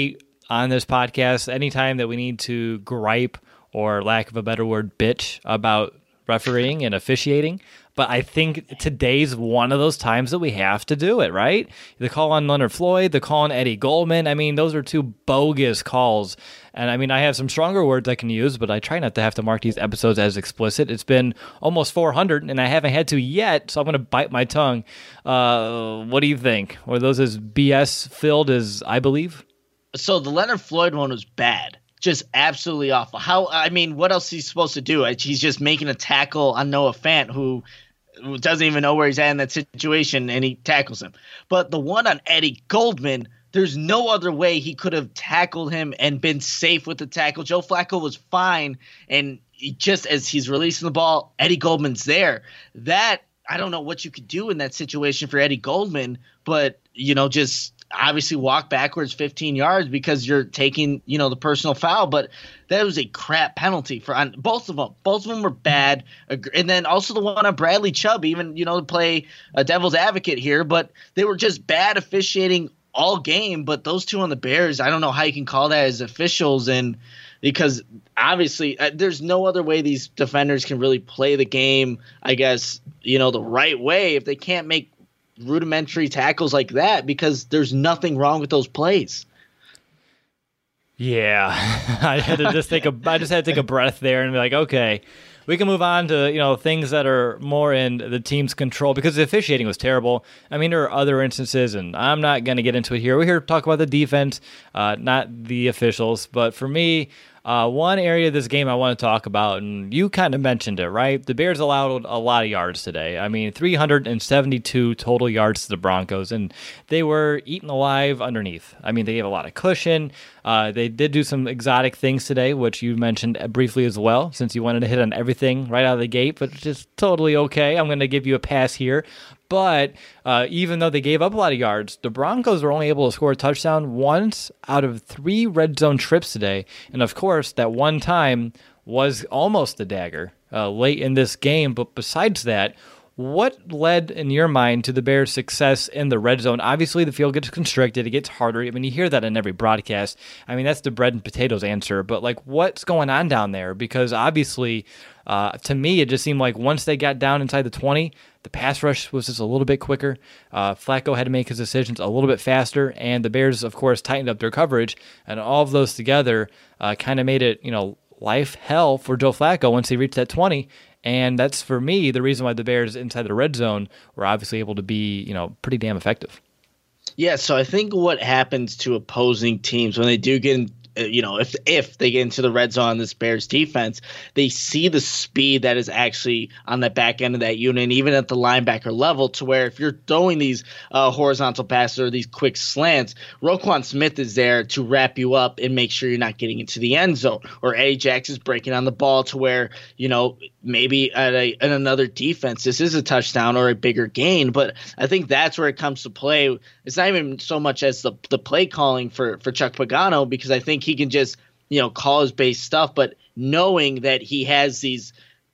on this podcast anytime that we need to gripe, or lack of a better word, bitch, about refereeing and officiating. But I think today's one of those times that we have to do it, right? The call on Leonard Floyd, the call on Eddie Goldman. I mean, those are two bogus calls. And I mean, I have some stronger words I can use, but I try not to have to mark these episodes as explicit. It's been almost four hundred, and I haven't had to yet, so I'm going to bite my tongue. Uh, what do you think? Were those as B S filled as I believe? So the Leonard Floyd one was bad. Just absolutely awful. How, I mean, what else is he supposed to do? He's just making a tackle on Noah Fant, who doesn't even know where he's at in that situation, and he tackles him. But the one on Eddie Goldman, there's no other way he could have tackled him and been safe with the tackle. Joe Flacco was fine, and he, just as he's releasing the ball, Eddie Goldman's there. That, I don't know what you could do in that situation for Eddie Goldman, but, you know, just obviously walk backwards fifteen yards because you're taking, you know, the personal foul. But that was a crap penalty for on both of them. Both of them were bad. And then also the one on Bradley Chubb, even, you know, to play a devil's advocate here, but they were just bad officiating all game. But those two on the Bears, I don't know how you can call that as officials. And because obviously uh, there's no other way these defenders can really play the game, I guess, you know, the right way if they can't make rudimentary tackles like that, because there's nothing wrong with those plays. Yeah, I had to just take a I just had to take a breath there and be like, okay, we can move on to, you know, things that are more in the team's control, because the officiating was terrible. I mean, there are other instances, and I'm not going to get into it here. We're here to talk about the defense, uh, not the officials. But for me, Uh, one area of this game I want to talk about, and you kind of mentioned it, right? The Bears allowed a lot of yards today. I mean, three hundred seventy-two total yards to the Broncos, and they were eaten alive underneath. I mean, they gave a lot of cushion. Uh, they did do some exotic things today, which you mentioned briefly as well, since you wanted to hit on everything right out of the gate, but it's just totally okay. I'm going to give you a pass here. But uh, even though they gave up a lot of yards, the Broncos were only able to score a touchdown once out of three red zone trips today. And of course, that one time was almost a dagger uh, late in this game. But besides that, what led, in your mind, to the Bears' success in the red zone? Obviously, the field gets constricted. It gets harder. I mean, you hear that in every broadcast. I mean, that's the bread and potatoes answer. But, like, what's going on down there? Because, obviously, uh, to me, it just seemed like once they got down inside the twenty, the pass rush was just a little bit quicker. Uh, Flacco had to make his decisions a little bit faster. And the Bears, of course, tightened up their coverage. And all of those together uh, kind of made it, you know, life hell for Joe Flacco once he reached that twenty. And that's, for me, the reason why the Bears inside the red zone were obviously able to be, you know, pretty damn effective. Yeah, so I think what happens to opposing teams when they do get in, you know, if if they get into the red zone on this Bears defense, they see the speed that is actually on the back end of that unit, and even at the linebacker level, to where if you're throwing these uh, horizontal passes or these quick slants, Roquan Smith is there to wrap you up and make sure you're not getting into the end zone. Or Ajax is breaking on the ball to where, you know, maybe at, a, at another defense, this is a touchdown or a bigger gain. But I think that's where it comes to play. It's not even so much as the the play calling for, for Chuck Pagano, because I think he can just, you know, call his base stuff, but knowing that he has these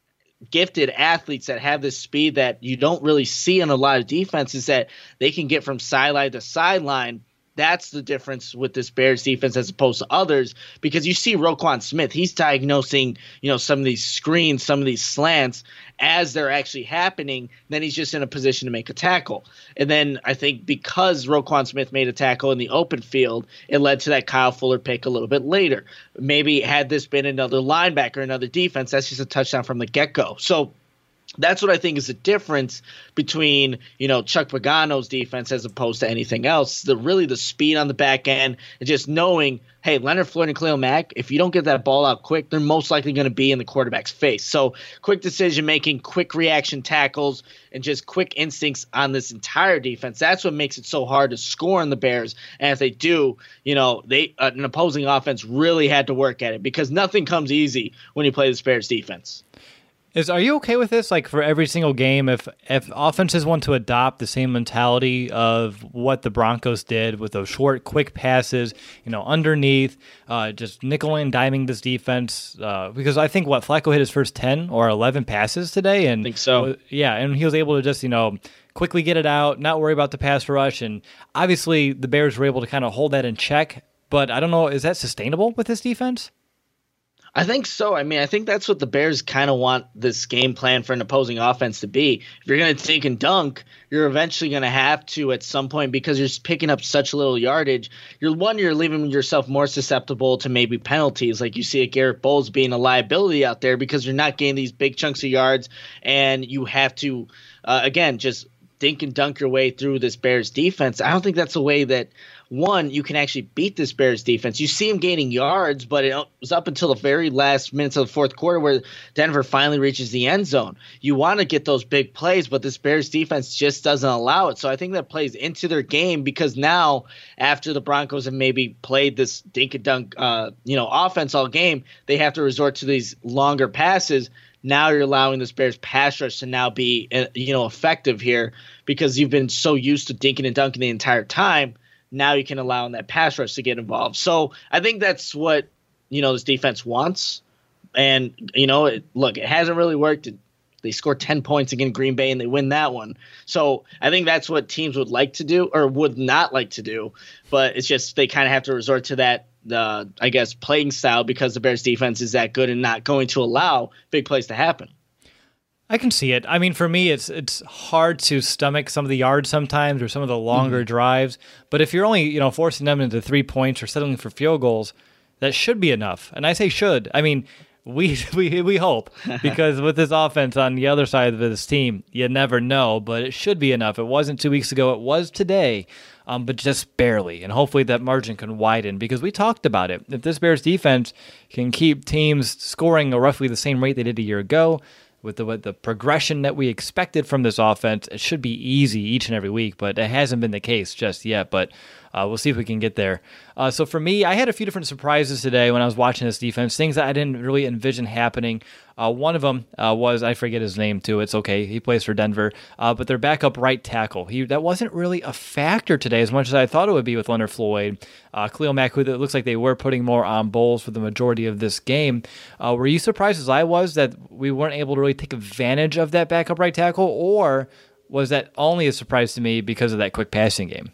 gifted athletes that have this speed that you don't really see in a lot of defenses, that they can get from sideline to sideline. That's the difference with this Bears defense as opposed to others, because you see Roquan Smith, he's diagnosing, you know, some of these screens, some of these slants as they're actually happening. Then he's just in a position to make a tackle. And then I think because Roquan Smith made a tackle in the open field, it led to that Kyle Fuller pick a little bit later. Maybe had this been another linebacker, another defense, that's just a touchdown from the get-go. So that's what I think is the difference between, you know, Chuck Pagano's defense as opposed to anything else. The really the speed on the back end and just knowing, hey, Leonard Floyd and Khalil Mack, if you don't get that ball out quick, they're most likely going to be in the quarterback's face. So quick decision making, quick reaction tackles, and just quick instincts on this entire defense. That's what makes it so hard to score in the Bears. And if they do, you know, they uh, an opposing offense really had to work at it, because nothing comes easy when you play this Bears defense. Is are you okay with this? Like for every single game, if if offenses want to adopt the same mentality of what the Broncos did with those short, quick passes, you know, underneath, uh, just nickel and diming this defense, uh, because I think what Flacco hit his first ten or eleven passes today, and I think so. Yeah, and he was able to just, you know, quickly get it out, not worry about the pass rush, and obviously the Bears were able to kind of hold that in check but I don't know, is that sustainable with this defense? I think so. I mean, I think that's what the Bears kind of want this game plan for an opposing offense to be. If you're going to take and dunk, you're eventually going to have to at some point because you're picking up such little yardage. You're one, you're leaving yourself more susceptible to maybe penalties, like you see at Garrett Bowles being a liability out there because you're not getting these big chunks of yards, and you have to, uh, again, just dink and dunk your way through this Bears defense. I don't think that's a way that – one, you can actually beat this Bears defense. You see them gaining yards, but it was up until the very last minutes of the fourth quarter where Denver finally reaches the end zone. You want to get those big plays, but this Bears defense just doesn't allow it. So I think that plays into their game because now, after the Broncos have maybe played this dink and dunk, uh, you know, offense all game, they have to resort to these longer passes. Now you're allowing this Bears pass rush to now be, uh, you know, effective here because you've been so used to dinking and dunking the entire time. Now you can allow in that pass rush to get involved. So I think that's what, you know, this defense wants. And, you know, it, look, it hasn't really worked. They scored ten points against Green Bay and they win that one. So I think that's what teams would like to do or would not like to do. But it's just they kind of have to resort to that, uh, I guess, playing style because the Bears defense is that good and not going to allow big plays to happen. I can see it. I mean, for me, it's it's hard to stomach some of the yards sometimes or some of the longer mm-hmm. drives. But if you're only, you know, forcing them into three points or settling for field goals, that should be enough. And I say should. I mean, we we we hope because with this offense on the other side of this team, you never know. But it should be enough. It wasn't two weeks ago. It was today, um, but just barely. And hopefully that margin can widen because we talked about it. If this Bears defense can keep teams scoring at roughly the same rate they did a year ago, with the with the progression that we expected from this offense, it should be easy each and every week, but it hasn't been the case just yet, but uh, we'll see if we can get there. Uh, so for me, I had a few different surprises today when I was watching this defense, things that I didn't really envision happening. Uh, one of them uh, was, I forget his name too, it's okay, he plays for Denver, uh, but their backup right tackle, he that wasn't really a factor today as much as I thought it would be with Leonard Floyd. Uh, Khalil Mack, who it looks like they were putting more on Bowles for the majority of this game. Uh, were you surprised as I was that we weren't able to really take advantage of that backup right tackle, or was that only a surprise to me because of that quick passing game?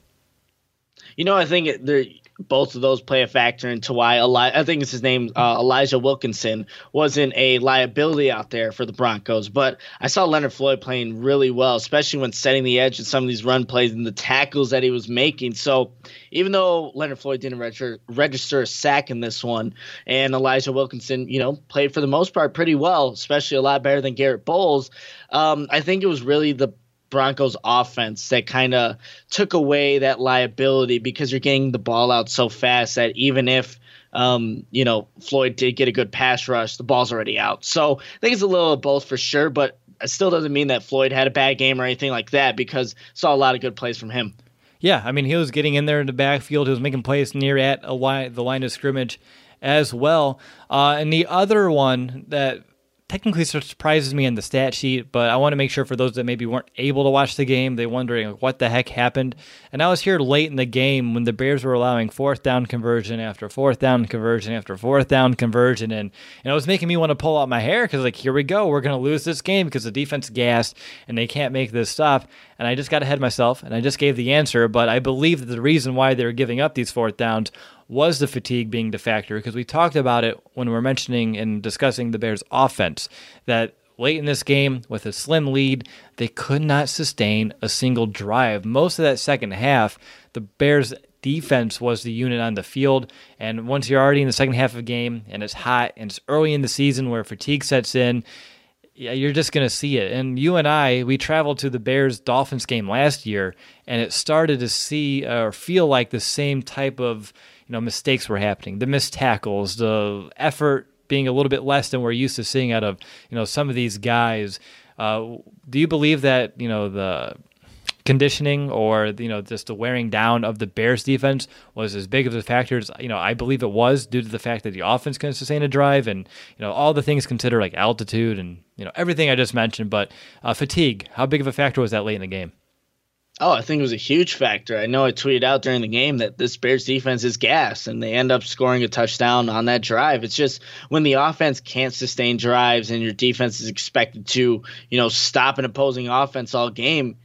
You know, I think it, both of those play a factor into why Eli- I think it's his name, uh, Elijah Wilkinson, wasn't a liability out there for the Broncos. But I saw Leonard Floyd playing really well, especially when setting the edge in some of these run plays and the tackles that he was making. So even though Leonard Floyd didn't register, register a sack in this one, and Elijah Wilkinson, you know, played for the most part pretty well, especially a lot better than Garrett Bowles, um, I think it was really the Broncos offense that kind of took away that liability because you're getting the ball out so fast that even if um, you know, Floyd did get a good pass rush, the ball's already out. So I think it's a little of both for sure, but it still doesn't mean that Floyd had a bad game or anything like that because saw a lot of good plays from him. Yeah, I mean, he was getting in there in the backfield. He was making plays near at a line, the line of scrimmage as well. Uh, and the other one that technically surprises me in the stat sheet, but I want to make sure for those that maybe weren't able to watch the game, they're wondering what the heck happened. And I was here late in the game when the Bears were allowing fourth down conversion after fourth down conversion after fourth down conversion, and, and it was making me want to pull out my hair because, like, here we go, we're going to lose this game because the defense gassed and they can't make this stop. And I just got ahead of myself and I just gave the answer, but I believe that the reason why they were giving up these fourth downs was the fatigue being the factor, because we talked about it when we were mentioning and discussing the Bears' offense, that late in this game, with a slim lead, they could not sustain a single drive. Most of that second half, the Bears' defense was the unit on the field, and once you're already in the second half of the game, and it's hot, and it's early in the season where fatigue sets in, yeah, you're just going to see it. And you and I, we traveled to the Bears-Dolphins game last year, and it started to see or feel like the same type of you know mistakes were happening. The missed tackles, the effort being a little bit less than we're used to seeing out of you know some of these guys. Uh, do you believe that you know the conditioning or you know just the wearing down of the Bears defense was as big of a factor as you know I believe it was, due to the fact that the offense couldn't sustain a drive and you know all the things considered, like altitude and you know everything I just mentioned, but uh, fatigue, how big of a factor was that late in the game? Oh, I think it was a huge factor. I know I tweeted out during the game that this Bears defense is gas, and they end up scoring a touchdown on that drive. It's just when the offense can't sustain drives and your defense is expected to, you know, stop an opposing offense all game,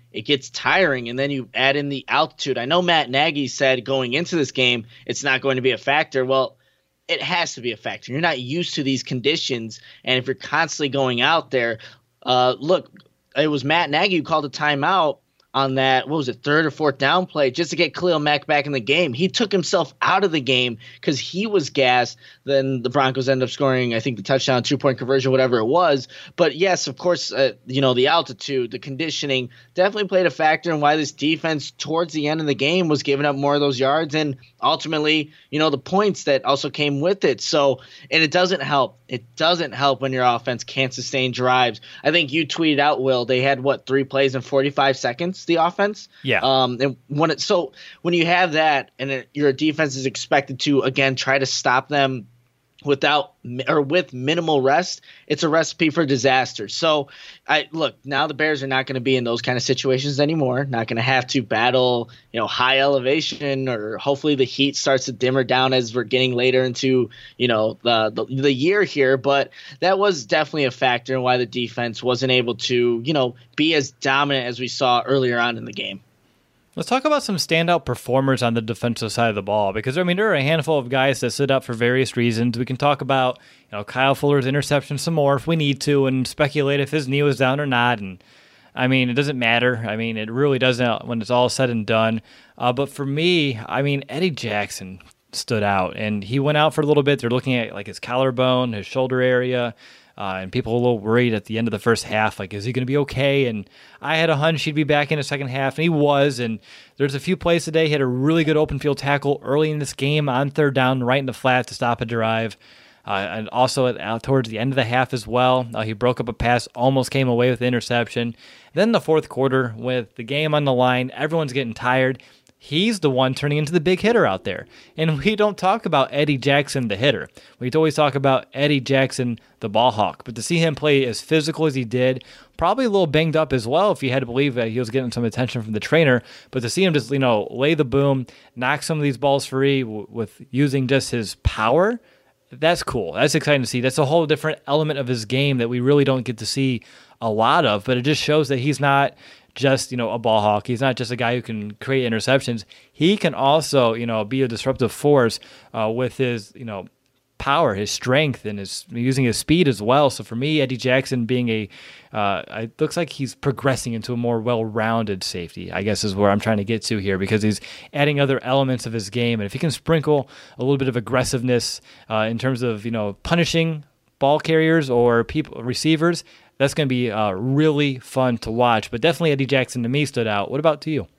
it gets tiring. And then you add in the altitude. I know Matt Nagy said going into this game, it's not going to be a factor. Well, it has to be a factor. You're not used to these conditions. And if you're constantly going out there, uh, look, it was Matt Nagy who called a timeout on that, what was it, third or fourth down play just to get Khalil Mack back in the game. He took himself out of the game because he was gassed. Then the Broncos ended up scoring, I think, the touchdown, two-point conversion, whatever it was. But, yes, of course, uh, you know, the altitude, the conditioning definitely played a factor in why this defense towards the end of the game was giving up more of those yards and ultimately, you know, the points that also came with it. So, and it doesn't help. It doesn't help when your offense can't sustain drives. I think you tweeted out, Will, they had, what, three plays in forty-five seconds, the offense? Yeah. Um, and when it, so when you have that and it, your defense is expected to, again, try to stop them without or with minimal rest, it's a recipe for disaster. So I look, now the Bears are not going to be in those kind of situations anymore, not going to have to battle, you know, high elevation, or hopefully the heat starts to dimmer down as we're getting later into, you know, the, the the year here. But that was definitely a factor in why the defense wasn't able to, you know, be as dominant as we saw earlier on in the game. Let's talk about some standout performers on the defensive side of the ball, because, I mean, there are a handful of guys that stood up for various reasons. We can talk about, you know, Kyle Fuller's interception some more if we need to, and speculate if his knee was down or not. And, I mean, it doesn't matter. I mean, it really doesn't when it's all said and done. Uh, but for me, I mean, Eddie Jackson stood out, and he went out for a little bit. They're looking at, like, his collarbone, his shoulder area. Uh, and people were a little worried at the end of the first half, like, is he going to be okay? And I had a hunch he'd be back in the second half, and he was. And there's a few plays today. He had a really good open field tackle early in this game on third down, right in the flat to stop a drive. Uh, and also at, uh, towards the end of the half as well, uh, he broke up a pass, almost came away with the interception. Then the fourth quarter, with the game on the line, everyone's getting tired. He's the one turning into the big hitter out there. And we don't talk about Eddie Jackson, the hitter. We always talk about Eddie Jackson, the ball hawk. But to see him play as physical as he did, probably a little banged up as well if you had to believe that he was getting some attention from the trainer. But to see him just, you know, lay the boom, knock some of these balls free w- with using just his power, that's cool. That's exciting to see. That's a whole different element of his game that we really don't get to see a lot of. But it just shows that he's not just, you know, a ball hawk. He's not just a guy who can create interceptions. He can also, you know, be a disruptive force uh, with his, you know, power, his strength, and his using his speed as well. So for me, Eddie Jackson being a, uh, it looks like he's progressing into a more well-rounded safety, I guess is where I'm trying to get to here, because he's adding other elements of his game. And if he can sprinkle a little bit of aggressiveness uh, in terms of, you know, punishing ball carriers or people, receivers, that's going to be uh, really fun to watch. But definitely Eddie Jackson to me stood out. What about to you?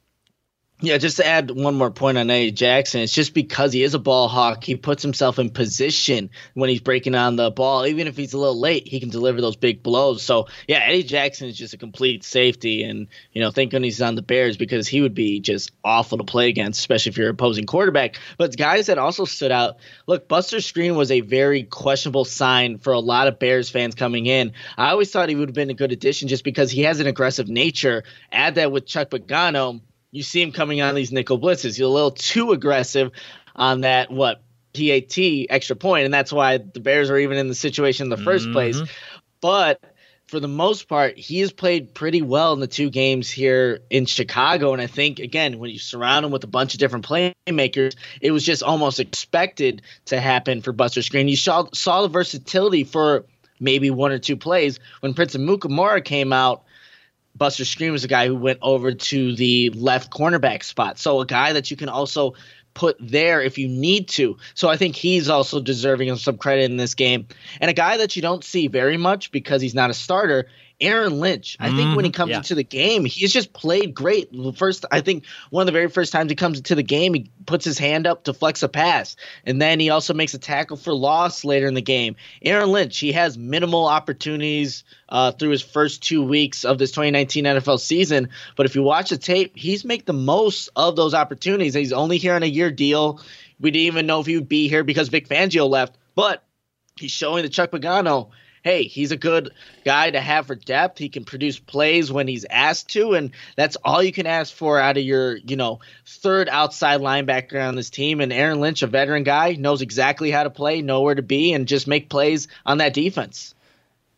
Yeah, just to add one more point on Eddie Jackson, it's just because he is a ball hawk, he puts himself in position when he's breaking on the ball. Even if he's a little late, he can deliver those big blows. So, yeah, Eddie Jackson is just a complete safety. And, you know, thank goodness he's on the Bears, because he would be just awful to play against, especially if you're an opposing quarterback. But guys that also stood out, look, Buster Skrine was a very questionable sign for a lot of Bears fans coming in. I always thought he would have been a good addition just because he has an aggressive nature. Add that with Chuck Pagano, you see him coming on these nickel blitzes. He's a little too aggressive on that, what, P A T, extra point, and that's why the Bears are even in the situation in the first mm-hmm. place. But for the most part, he has played pretty well in the two games here in Chicago. And I think, again, when you surround him with a bunch of different playmakers, it was just almost expected to happen for Buster Skrine. You saw, saw the versatility for maybe one or two plays. When Prince Amukamara came out, Buster Skrine was a guy who went over to the left cornerback spot. So a guy that you can also put there if you need to. So I think he's also deserving of some credit in this game. And a guy that you don't see very much because he's not a starter, Aaron Lynch. I think when he comes yeah. into the game, he's just played great. First, I think one of the very first times he comes into the game, he puts his hand up to flex a pass. And then he also makes a tackle for loss later in the game. Aaron Lynch, he has minimal opportunities uh, through his first two weeks of this twenty nineteen N F L season. But if you watch the tape, he's made the most of those opportunities. He's only here on a year deal. We didn't even know if he would be here because Vic Fangio left. But he's showing the Chuck Pagano, hey, he's a good guy to have for depth. He can produce plays when he's asked to, and that's all you can ask for out of your, you know, third outside linebacker on this team. And Aaron Lynch, a veteran guy, knows exactly how to play, know where to be, and just make plays on that defense.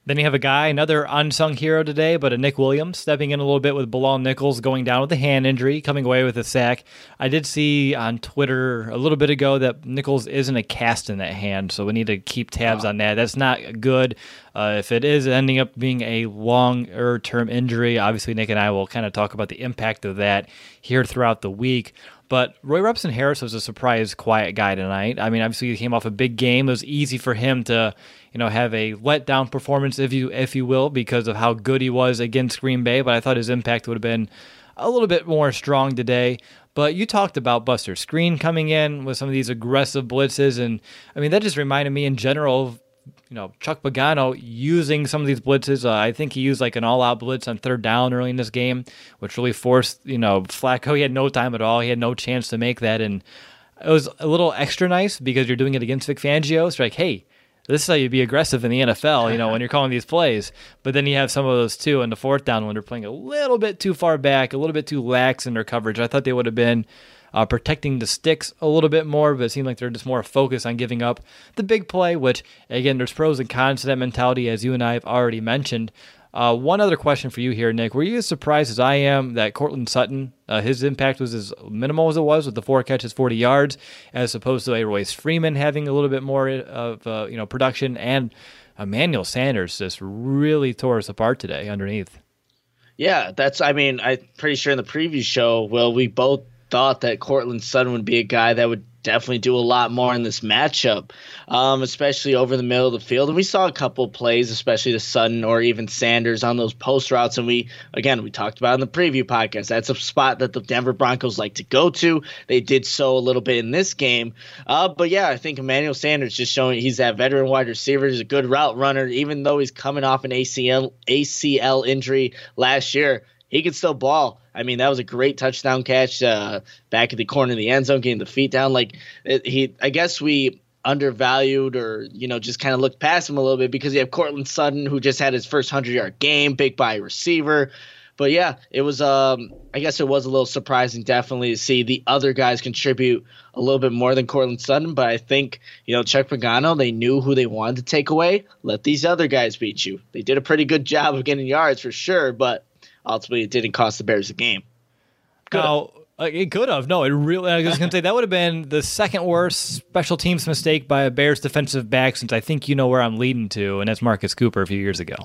Then you have a guy, another unsung hero today, but a Nick Williams stepping in a little bit with Bilal Nichols going down with a hand injury, coming away with a sack. I did see on Twitter a little bit ago that Nichols isn't a cast in that hand, so we need to keep tabs on that. That's not good. Uh, if it is ending up being a longer-term injury, obviously Nick and I will kind of talk about the impact of that here throughout the week. But Roy Robertson Harris was a surprise quiet guy tonight. I mean, obviously he came off a big game. It was easy for him to, you know, have a letdown performance, if you if you will, because of how good he was against Green Bay. But I thought his impact would have been a little bit more strong today. But you talked about Buster Skrine coming in with some of these aggressive blitzes, and I mean that just reminded me in general of, you know, Chuck Pagano using some of these blitzes. Uh, I think he used like an all-out blitz on third down early in this game, which really forced, you know, Flacco. He had no time at all. He had no chance to make that, and it was a little extra nice because you're doing it against Vic Fangio. So like, hey, this is how you be aggressive in the N F L, you know, when you're calling these plays. But then you have some of those too in the fourth down when they're playing a little bit too far back, a little bit too lax in their coverage. I thought they would have been Uh, protecting the sticks a little bit more, but it seemed like they're just more focused on giving up the big play, which, again, there's pros and cons to that mentality, as you and I have already mentioned. Uh, one other question for you here, Nick. Were you as surprised as I am that Courtland Sutton, uh, his impact was as minimal as it was with the four catches, forty yards, as opposed to a Royce Freeman having a little bit more of uh, you know production, and Emmanuel Sanders just really tore us apart today underneath? Yeah, that's, I mean, I'm pretty sure in the preview show, well, we both thought that Courtland Sutton would be a guy that would definitely do a lot more in this matchup, um, especially over the middle of the field. And we saw a couple of plays, especially to Sutton or even Sanders on those post routes. And we, again, we talked about in the preview podcast, that's a spot that the Denver Broncos like to go to. They did so a little bit in this game. Uh, but yeah, I think Emmanuel Sanders just showing he's that veteran wide receiver. He's a good route runner, even though he's coming off an A C L A C L injury last year. He can still ball. I mean, that was a great touchdown catch uh, back at the corner of the end zone, getting the feet down. Like it, he, I guess we undervalued or, you know, just kind of looked past him a little bit because you have Courtland Sutton, who just had his first hundred-yard game, big body receiver. But yeah, it was. Um, I guess it was a little surprising, definitely, to see the other guys contribute a little bit more than Courtland Sutton. But I think, you know, Chuck Pagano, they knew who they wanted to take away. Let these other guys beat you. They did a pretty good job of getting yards for sure, but ultimately, it didn't cost the Bears the game. Could no, uh, it could have. No, it really. I was going to say that would have been the second worst special teams mistake by a Bears defensive back since I think you know where I'm leading to, and that's Marcus Cooper a few years ago.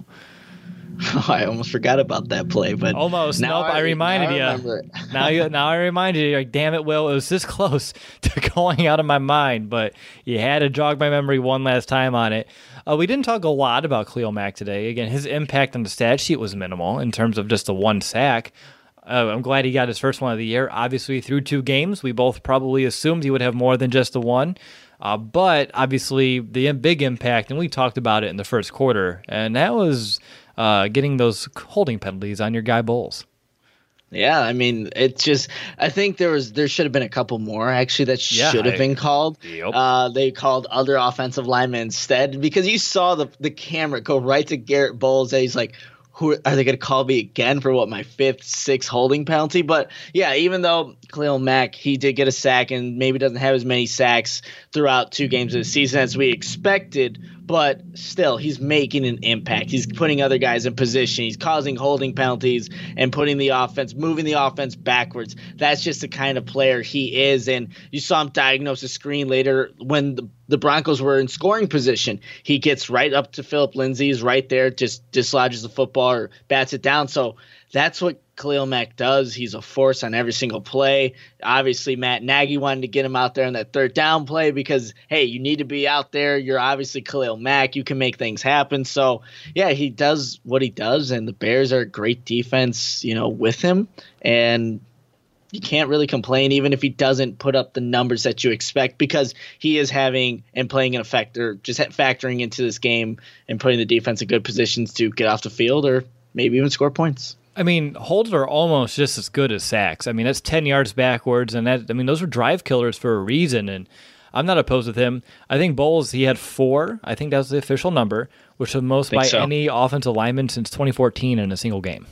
Oh, I almost forgot about that play, but almost. Now nope, I, I reminded now you. I now you. Now I reminded you. Like, damn it, Will. It was this close to going out of my mind, but you had to jog my memory one last time on it. Uh, we didn't talk a lot about Khalil Mack today. Again, his impact on the stat sheet was minimal in terms of just the one sack. Uh, I'm glad he got his first one of the year. Obviously, through two games, we both probably assumed he would have more than just the one. Uh, but obviously, the big impact, and we talked about it in the first quarter, and that was uh, getting those holding penalties on your guy Bowles. Yeah, I mean, it's just I think there was there should have been a couple more actually that yeah, should have I, been called. Yep. Uh, they called other offensive linemen instead because you saw the the camera go right to Garrett Bowles and he's like, who are they going to call me again for what, my fifth, sixth holding penalty? But yeah, even though Khalil Mack, he did get a sack and maybe doesn't have as many sacks throughout two games of the season as we expected, but still, he's making an impact. He's putting other guys in position. He's causing holding penalties and putting the offense, moving the offense backwards. That's just the kind of player he is. And you saw him diagnose a screen later when the, the Broncos were in scoring position. He gets right up to Phillip Lindsay. He's right there, just dislodges the football or bats it down. So that's what Khalil Mack does. He's a force on every single play. Obviously, Matt Nagy wanted to get him out there in that third down play because, hey, you need to be out there. You're obviously Khalil Mack. You can make things happen. So, yeah, he does what he does, and the Bears are a great defense, you know, with him. And you can't really complain even if he doesn't put up the numbers that you expect because he is having and playing an effect or just factoring into this game and putting the defense in good positions to get off the field or maybe even score points. I mean, holds are almost just as good as sacks. I mean, that's ten yards backwards, and that I mean, those were drive killers for a reason, and I'm not opposed with him. I think Bowles, he had four. I think that was the official number, which is the most by so. any offensive lineman since twenty fourteen in a single game.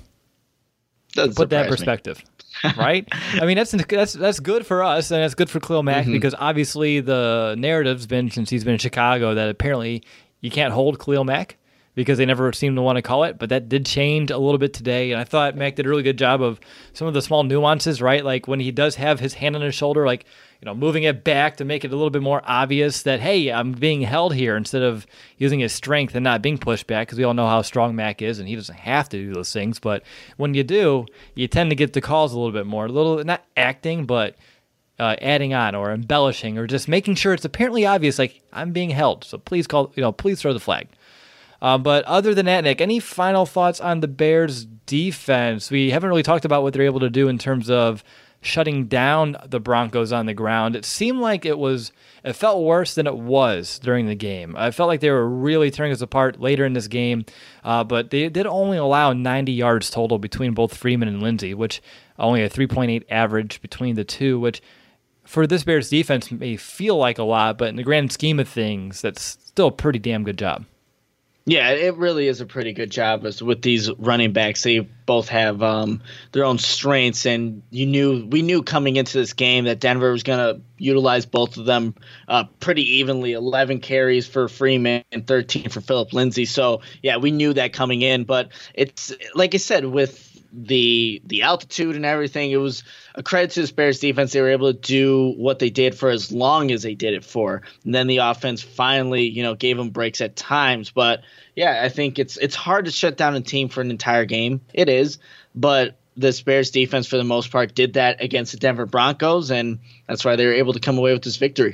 Doesn't Put that in perspective, right? I mean, that's that's that's good for us, and that's good for Khalil Mack mm-hmm. because obviously the narrative's been since he's been in Chicago that apparently you can't hold Khalil Mack. because they never seemed to want to call it, but that did change a little bit today. And I thought Mac did a really good job of some of the small nuances, right? Like when he does have his hand on his shoulder, like, you know, moving it back to make it a little bit more obvious that, hey, I'm being held here, instead of using his strength and not being pushed back, because we all know how strong Mac is and he doesn't have to do those things. But when you do, you tend to get the calls a little bit more, a little, not acting, but uh, adding on or embellishing or just making sure it's apparently obvious, like, I'm being held. So please call, you know, please throw the flag. Uh, but other than that, Nick, any final thoughts on the Bears' defense? We haven't really talked about what they're able to do in terms of shutting down the Broncos on the ground. It seemed like it was, it felt worse than it was during the game. I felt like they were really tearing us apart later in this game, uh, but they did only allow ninety yards total between both Freeman and Lindsey, which only a three point eight average between the two, which for this Bears defense may feel like a lot, but in the grand scheme of things, that's still a pretty damn good job. Yeah, it really is a pretty good job with these running backs. They both have um, their own strengths, and you knew we knew coming into this game that Denver was going to utilize both of them uh, pretty evenly. eleven carries for Freeman and thirteen for Phillip Lindsay. So yeah, we knew that coming in. But it's like I said, with the the altitude and everything, it was a credit to this Bears defense. They were able to do what they did for as long as they did it for, and then the offense finally, you know, gave them breaks at times. But yeah, I think it's it's hard to shut down a team for an entire game. It is, but this Bears defense for the most part did that against the Denver Broncos, and that's why they were able to come away with this victory.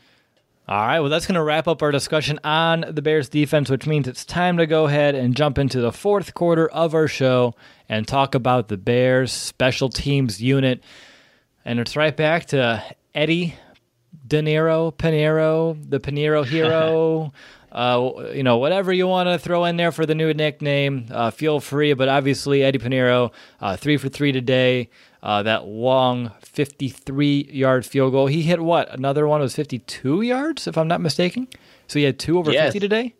All right, well, that's going to wrap up our discussion on the Bears defense, which means it's time to go ahead and jump into the fourth quarter of our show and talk about the Bears special teams unit. And it's right back to Eddie De Niro, Pinero, the Pinero hero, uh, you know, whatever you want to throw in there for the new nickname, uh, feel free. But obviously, Eddie Pinero, uh, three for three today. Uh, that long fifty-three-yard field goal. He hit what? Another one was fifty-two yards, if I'm not mistaken. So he had two over yes. fifty today?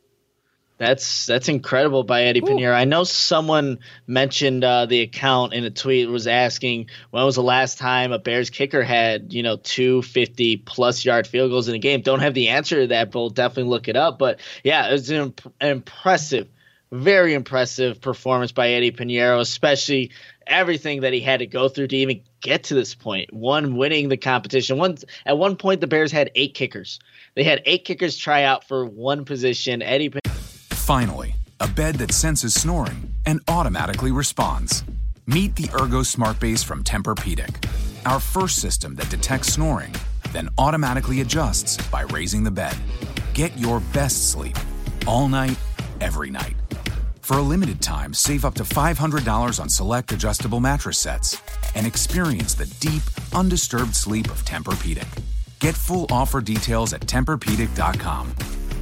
That's that's incredible by Eddie Ooh. Pinero. I know someone mentioned uh, the account in a tweet, was asking when was the last time a Bears kicker had, you know, two fifty-plus yard field goals in a game. Don't have the answer to that, but we'll definitely look it up. But, yeah, it was an, imp- an impressive, very impressive performance by Eddie Pinero, especially – everything that he had to go through to even get to this point. One, winning the competition. One, at one point, the Bears had eight kickers. They had eight kickers try out for one position. Eddie. Finally, a bed that senses snoring and automatically responds. Meet the Ergo Smart Base from Tempur-Pedic, our first system that detects snoring, then automatically adjusts by raising the bed. Get your best sleep all night, every night. For a limited time, save up to five hundred dollars on select adjustable mattress sets and experience the deep, undisturbed sleep of Tempur-Pedic. Get full offer details at Tempur Pedic dot com.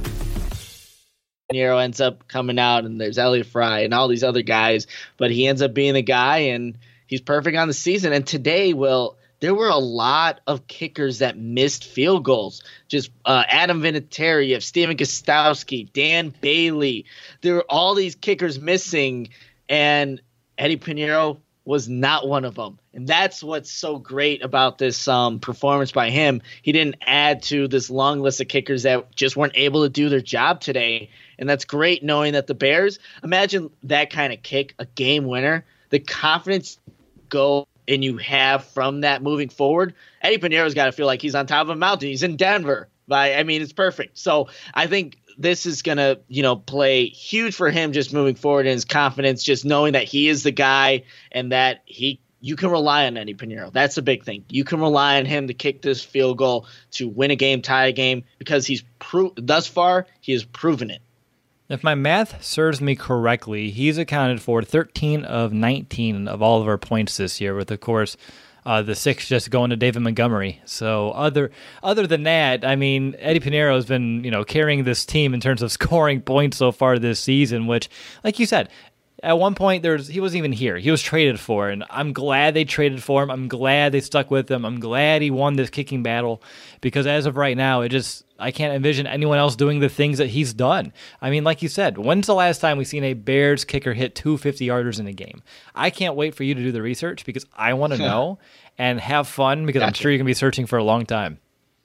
Nero ends up coming out, and there's Elliott Fry and all these other guys, but he ends up being the guy, and he's perfect on the season. And today, Will, there were a lot of kickers that missed field goals. Just uh, Adam Vinatieri, you have Steven Gostkowski, Dan Bailey. There were all these kickers missing, and Eddie Pinero was not one of them. And that's what's so great about this um, performance by him. He didn't add to this long list of kickers that just weren't able to do their job today. And that's great knowing that the Bears, imagine that kind of kick, a game winner, the confidence go and you have from that moving forward. Eddie Pinero's got to feel like he's on top of a mountain. He's in Denver. By, I mean, it's perfect. So I think this is going to, you know, play huge for him just moving forward in his confidence, just knowing that he is the guy and that he you can rely on Eddie Pinero. That's a big thing. You can rely on him to kick this field goal to win a game, tie a game, because he's pro- thus far he has proven it. If my math serves me correctly, he's accounted for thirteen of nineteen of all of our points this year, with, of course, uh, the six just going to David Montgomery. So other other than that, I mean, Eddie Pinero has been, you know, carrying this team in terms of scoring points so far this season, which, like you said, at one point there's he wasn't even here. He was traded for, and I'm glad they traded for him. I'm glad they stuck with him. I'm glad he won this kicking battle, because as of right now, it just I can't envision anyone else doing the things that he's done. I mean, like you said, when's the last time we've seen a Bears kicker hit two fifty-yarders in a game? I can't wait for you to do the research, because I want to know and have fun, because gotcha. I'm sure you're going to be searching for a long time.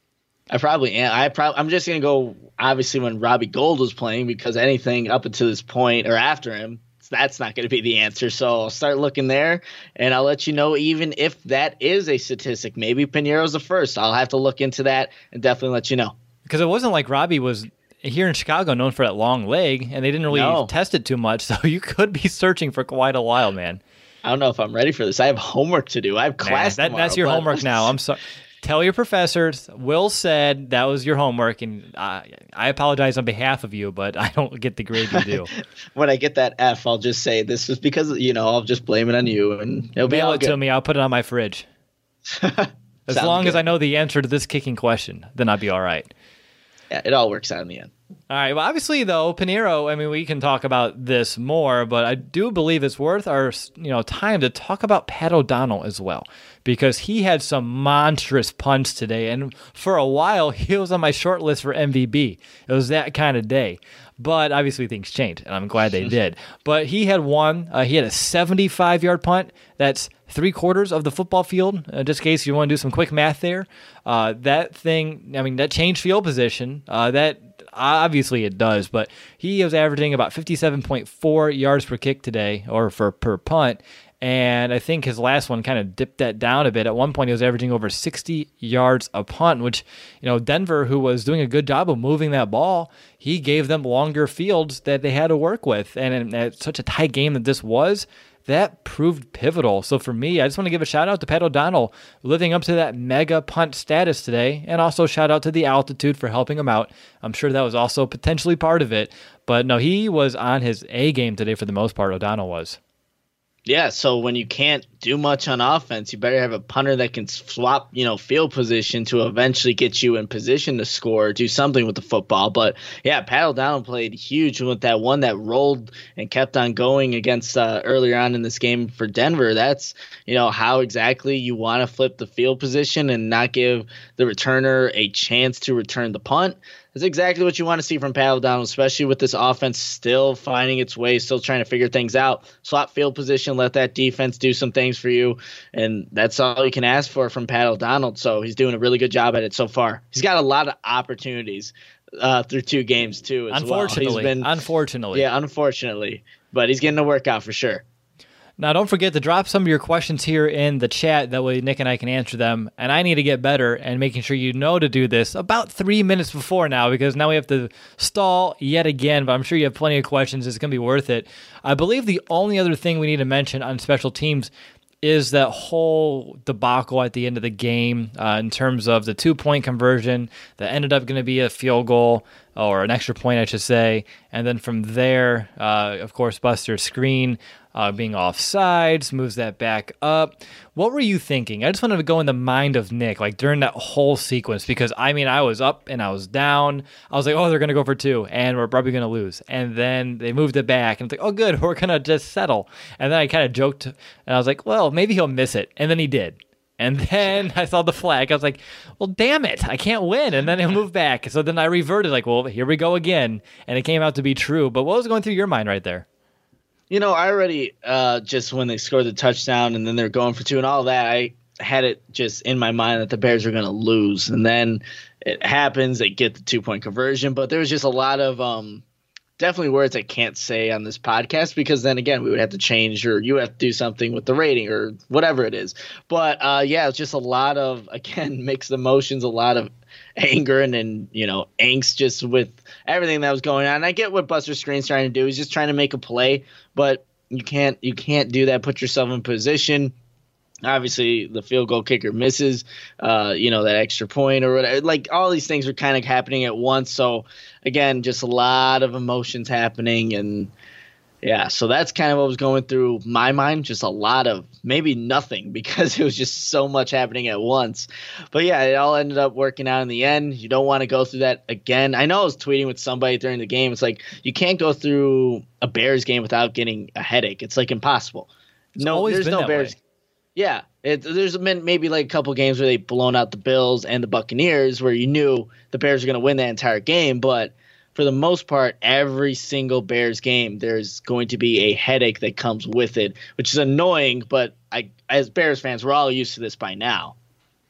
I probably am. I probably I'm just gonna go obviously when Robbie Gould was playing, because anything up until this point or after him, that's not going to be the answer. So I'll start looking there, and I'll let you know even if that is a statistic. Maybe Piñeiro's the first. I'll have to look into that and definitely let you know. Because it wasn't like Robbie was here in Chicago known for that long leg, and they didn't really No. test it too much, so you could be searching for quite a while, man. I don't know if I'm ready for this. I have homework to do. I have class Man, that, tomorrow, that's your but- homework now. I'm sorry. Tell your professors. Will said that was your homework, and I, I apologize on behalf of you, but I don't get the grade you do. When I get that F, I'll just say this is because, you know, I'll just blame it on you, and it'll be Mail all it good. to me. I'll put it on my fridge. As Sounds long as good. I know the answer to this kicking question, then I'll be all right. Yeah, it all works out in the end. All right. Well, obviously, though, Piñeiro, I mean, we can talk about this more, but I do believe it's worth our you know time to talk about Pat O'Donnell as well, because he had some monstrous punts today, and for a while, he was on my short list for M V B. It was that kind of day. But obviously, things changed, and I'm glad they did. But he had one. Uh, he had a seventy-five-yard punt. That's three quarters of the football field, uh, just in case you want to do some quick math there. Uh, that thing, I mean, that changed field position. Uh, that obviously it does, but he was averaging about fifty-seven point four yards per kick today, or for per punt. And I think his last one kind of dipped that down a bit. At one point, he was averaging over sixty yards a punt, which, you know, Denver, who was doing a good job of moving that ball, he gave them longer fields that they had to work with. And in at such a tight game that this was, that proved pivotal. So for me, I just want to give a shout out to Pat O'Donnell living up to that mega punt status today, and also shout out to the altitude for helping him out. I'm sure that was also potentially part of it. But no, he was on his A game today for the most part, O'Donnell was. Yeah, so when you can't do much on offense, you better have a punter that can swap, you know, field position to eventually get you in position to score, do something with the football. But yeah, Pat O'Donnell played huge with that one that rolled and kept on going against uh, earlier on in this game for Denver. That's, you know, how exactly you want to flip the field position and not give the returner a chance to return the punt. That's exactly what you want to see from Pat O'Donnell, especially with this offense still finding its way, still trying to figure things out. Swap field position, let that defense do some things for you, and that's all you can ask for from Pat O'Donnell. So he's doing a really good job at it so far. He's got a lot of opportunities uh, through two games too. As Unfortunately, well. He's been, unfortunately, yeah, unfortunately, but he's getting to work out for sure. Now, don't forget to drop some of your questions here in the chat. That way Nick and I can answer them. And I need to get better and making sure you know to do this about three minutes before now, because now we have to stall yet again. But I'm sure you have plenty of questions. It's going to be worth it. I believe the only other thing we need to mention on special teams is that whole debacle at the end of the game uh, in terms of the two-point conversion that ended up going to be a field goal, or an extra point, I should say. And then from there, uh, of course, Buster's screen uh, being offsides moves that back up. What were you thinking? I just wanted to go in the mind of Nick, like during that whole sequence, because, I mean, I was up and I was down. I was like, oh, they're going to go for two, and we're probably going to lose. And then they moved it back, and it's like, oh, good, we're going to just settle. And then I kind of joked, and I was like, well, maybe he'll miss it. And then he did. And then I saw the flag. I was like, well, damn it, I can't win. And then it moved back. So then I reverted, like, well, here we go again. And it came out to be true. But what was going through your mind right there? You know, I already uh, just when they scored the touchdown and then they're going for two and all that, I had it just in my mind that the Bears were going to lose. And then it happens, they get the two-point conversion. But there was just a lot of um, definitely words I can't say on this podcast, because then again, we would have to change, or you have to do something with the rating or whatever it is. But uh, yeah, it's just a lot of, again, mixed emotions, a lot of anger and, and, you know, angst just with everything that was going on. And I get what Buster Screen's trying to do. He's just trying to make a play, but you can't, you can't do that. Put yourself in position. Obviously, the field goal kicker misses, uh, you know, that extra point or whatever. Like, all these things are kind of happening at once. So, again, just a lot of emotions happening. And, yeah, so that's kind of what was going through my mind. Just a lot of maybe nothing, because it was just so much happening at once. But, yeah, it all ended up working out in the end. You don't want to go through that again. I know I was tweeting with somebody during the game. It's like you can't go through a Bears game without getting a headache. It's, like, impossible. It's no, always there's been no that Bears. way. Yeah, it, there's been maybe like a couple games where they've blown out the Bills and the Buccaneers where you knew the Bears were going to win that entire game. But for the most part, every single Bears game, there's going to be a headache that comes with it, which is annoying. But I, as Bears fans, we're all used to this by now.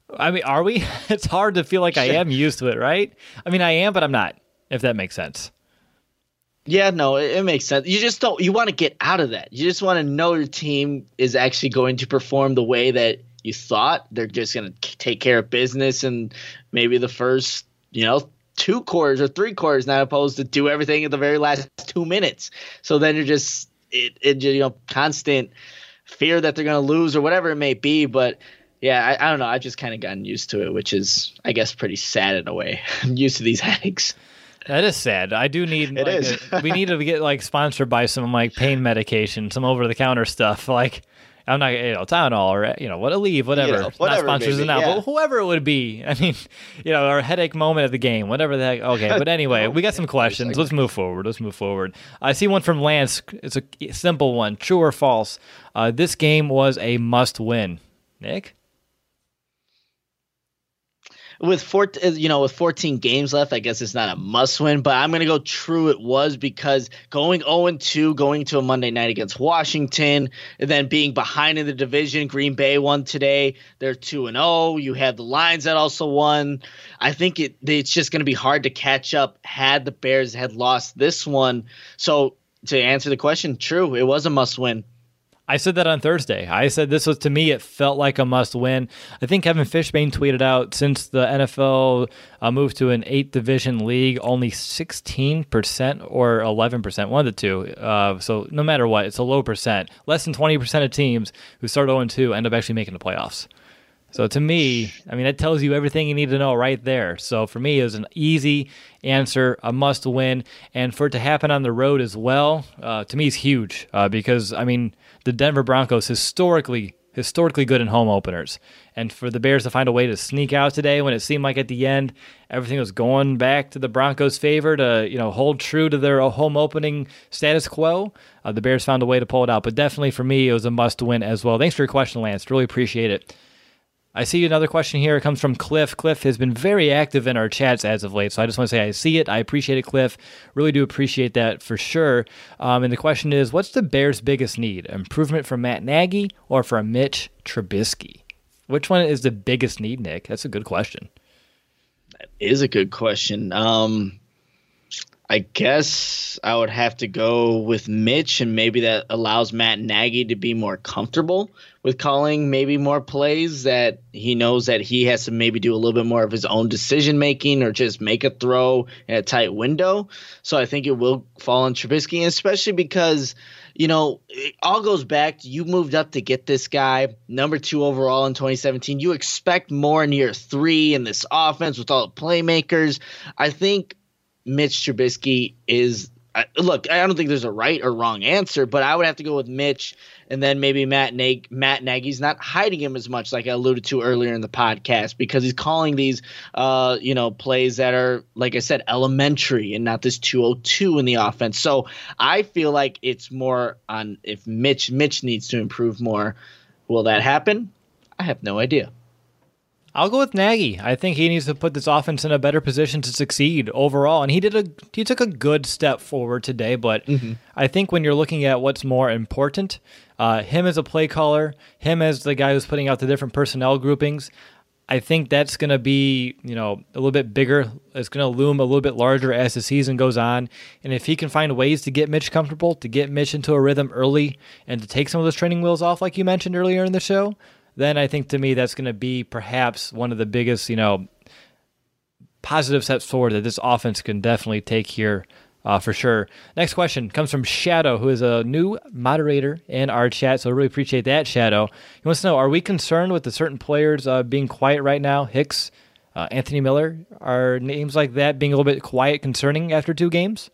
I mean, are we? It's hard to feel like I am used to it, right? I mean, I am, but I'm not, if that makes sense. Yeah, no, it, it makes sense. You just don't – you want to get out of that. You just want to know your team is actually going to perform the way that you thought. They're just going to take care of business and maybe the first, you know, two quarters or three quarters, not opposed to do everything in the very last two minutes. So then you're just it, – it, you know, constant fear that they're going to lose or whatever it may be. But, yeah, I, I don't know. I've just kind of gotten used to it, which is, I guess, pretty sad in a way. I'm used to these headaches. That is sad. I do need. It like, is. a, we need to get like sponsored by some like pain medication, some over the counter stuff. Like I'm not, you know, Tylenol or you know what, Aleve, whatever. You know, whatever not sponsors maybe, now, yeah. but whoever it would be. I mean, you know, our headache moment of the game, whatever the heck. Okay, but anyway, we got some questions. Let's move forward. Let's move forward. I see one from Lance. It's a simple one. True or false? Uh, this game was a must-win. Nick. With four, you know, with fourteen games left, I guess it's not a must-win, but I'm going to go true it was because going oh and two, going to a Monday night against Washington, and then being behind in the division, Green Bay won today. They're two and oh. You have the Lions that also won. I think it it's just going to be hard to catch up had the Bears had lost this one. So to answer the question, true, it was a must-win. I said that on Thursday. I said this was, to me, it felt like a must-win. I think Kevin Fishbane tweeted out, since the N F L uh, moved to an eight-division league, only sixteen percent or eleven percent, one of the two. Uh, so no matter what, it's a low percent. Less than twenty percent of teams who start oh and two end up actually making the playoffs. So to me, I mean, that tells you everything you need to know right there. So for me, it was an easy answer, a must-win. And for it to happen on the road as well, uh, to me, is huge uh, because, I mean, the Denver Broncos historically historically good in home openers. And for the Bears to find a way to sneak out today when it seemed like at the end everything was going back to the Broncos' favor to, you know, hold true to their home opening status quo, uh, the Bears found a way to pull it out. But definitely for me, it was a must-win as well. Thanks for your question, Lance. Really appreciate it. I see another question here. It comes from Cliff. Cliff has been very active in our chats as of late, so I just want to say I see it. I appreciate it, Cliff. Really do appreciate that for sure. Um, and the question is, what's the Bears' biggest need? Improvement from Matt Nagy or from Mitch Trubisky? Which one is the biggest need, Nick? That's a good question. That is a good question. Um, I guess I would have to go with Mitch, and maybe that allows Matt Nagy to be more comfortable with calling maybe more plays that he knows that he has to maybe do a little bit more of his own decision making or just make a throw in a tight window. So I think it will fall on Trubisky, and especially because, you know, it all goes back to you moved up to get this guy, number two overall in twenty seventeen. You expect more in year three in this offense with all the playmakers. I think Mitch Trubisky is – look, I don't think there's a right or wrong answer, but I would have to go with Mitch, and then maybe Matt, Nag- Matt Nagy's not hiding him as much like I alluded to earlier in the podcast because he's calling these uh, you know, plays that are, like I said, elementary and not this two oh two in the offense. So I feel like it's more on if Mitch Mitch needs to improve more. Will that happen? I have no idea. I'll go with Nagy. I think he needs to put this offense in a better position to succeed overall, and he did a he took a good step forward today. But mm-hmm. I think when you're looking at what's more important, uh, him as a play caller, him as the guy who's putting out the different personnel groupings, I think that's going to be, you know, a little bit bigger. It's going to loom a little bit larger as the season goes on. And if he can find ways to get Mitch comfortable, to get Mitch into a rhythm early, and to take some of those training wheels off, like you mentioned earlier in the show, then I think to me that's going to be perhaps one of the biggest, you know, positive steps forward that this offense can definitely take here uh, for sure. Next question comes from Shadow, who is a new moderator in our chat, so I really appreciate that, Shadow. He wants to know, are we concerned with the certain players uh, being quiet right now? Hicks, uh, Anthony Miller, are names like that being a little bit quiet concerning after two games?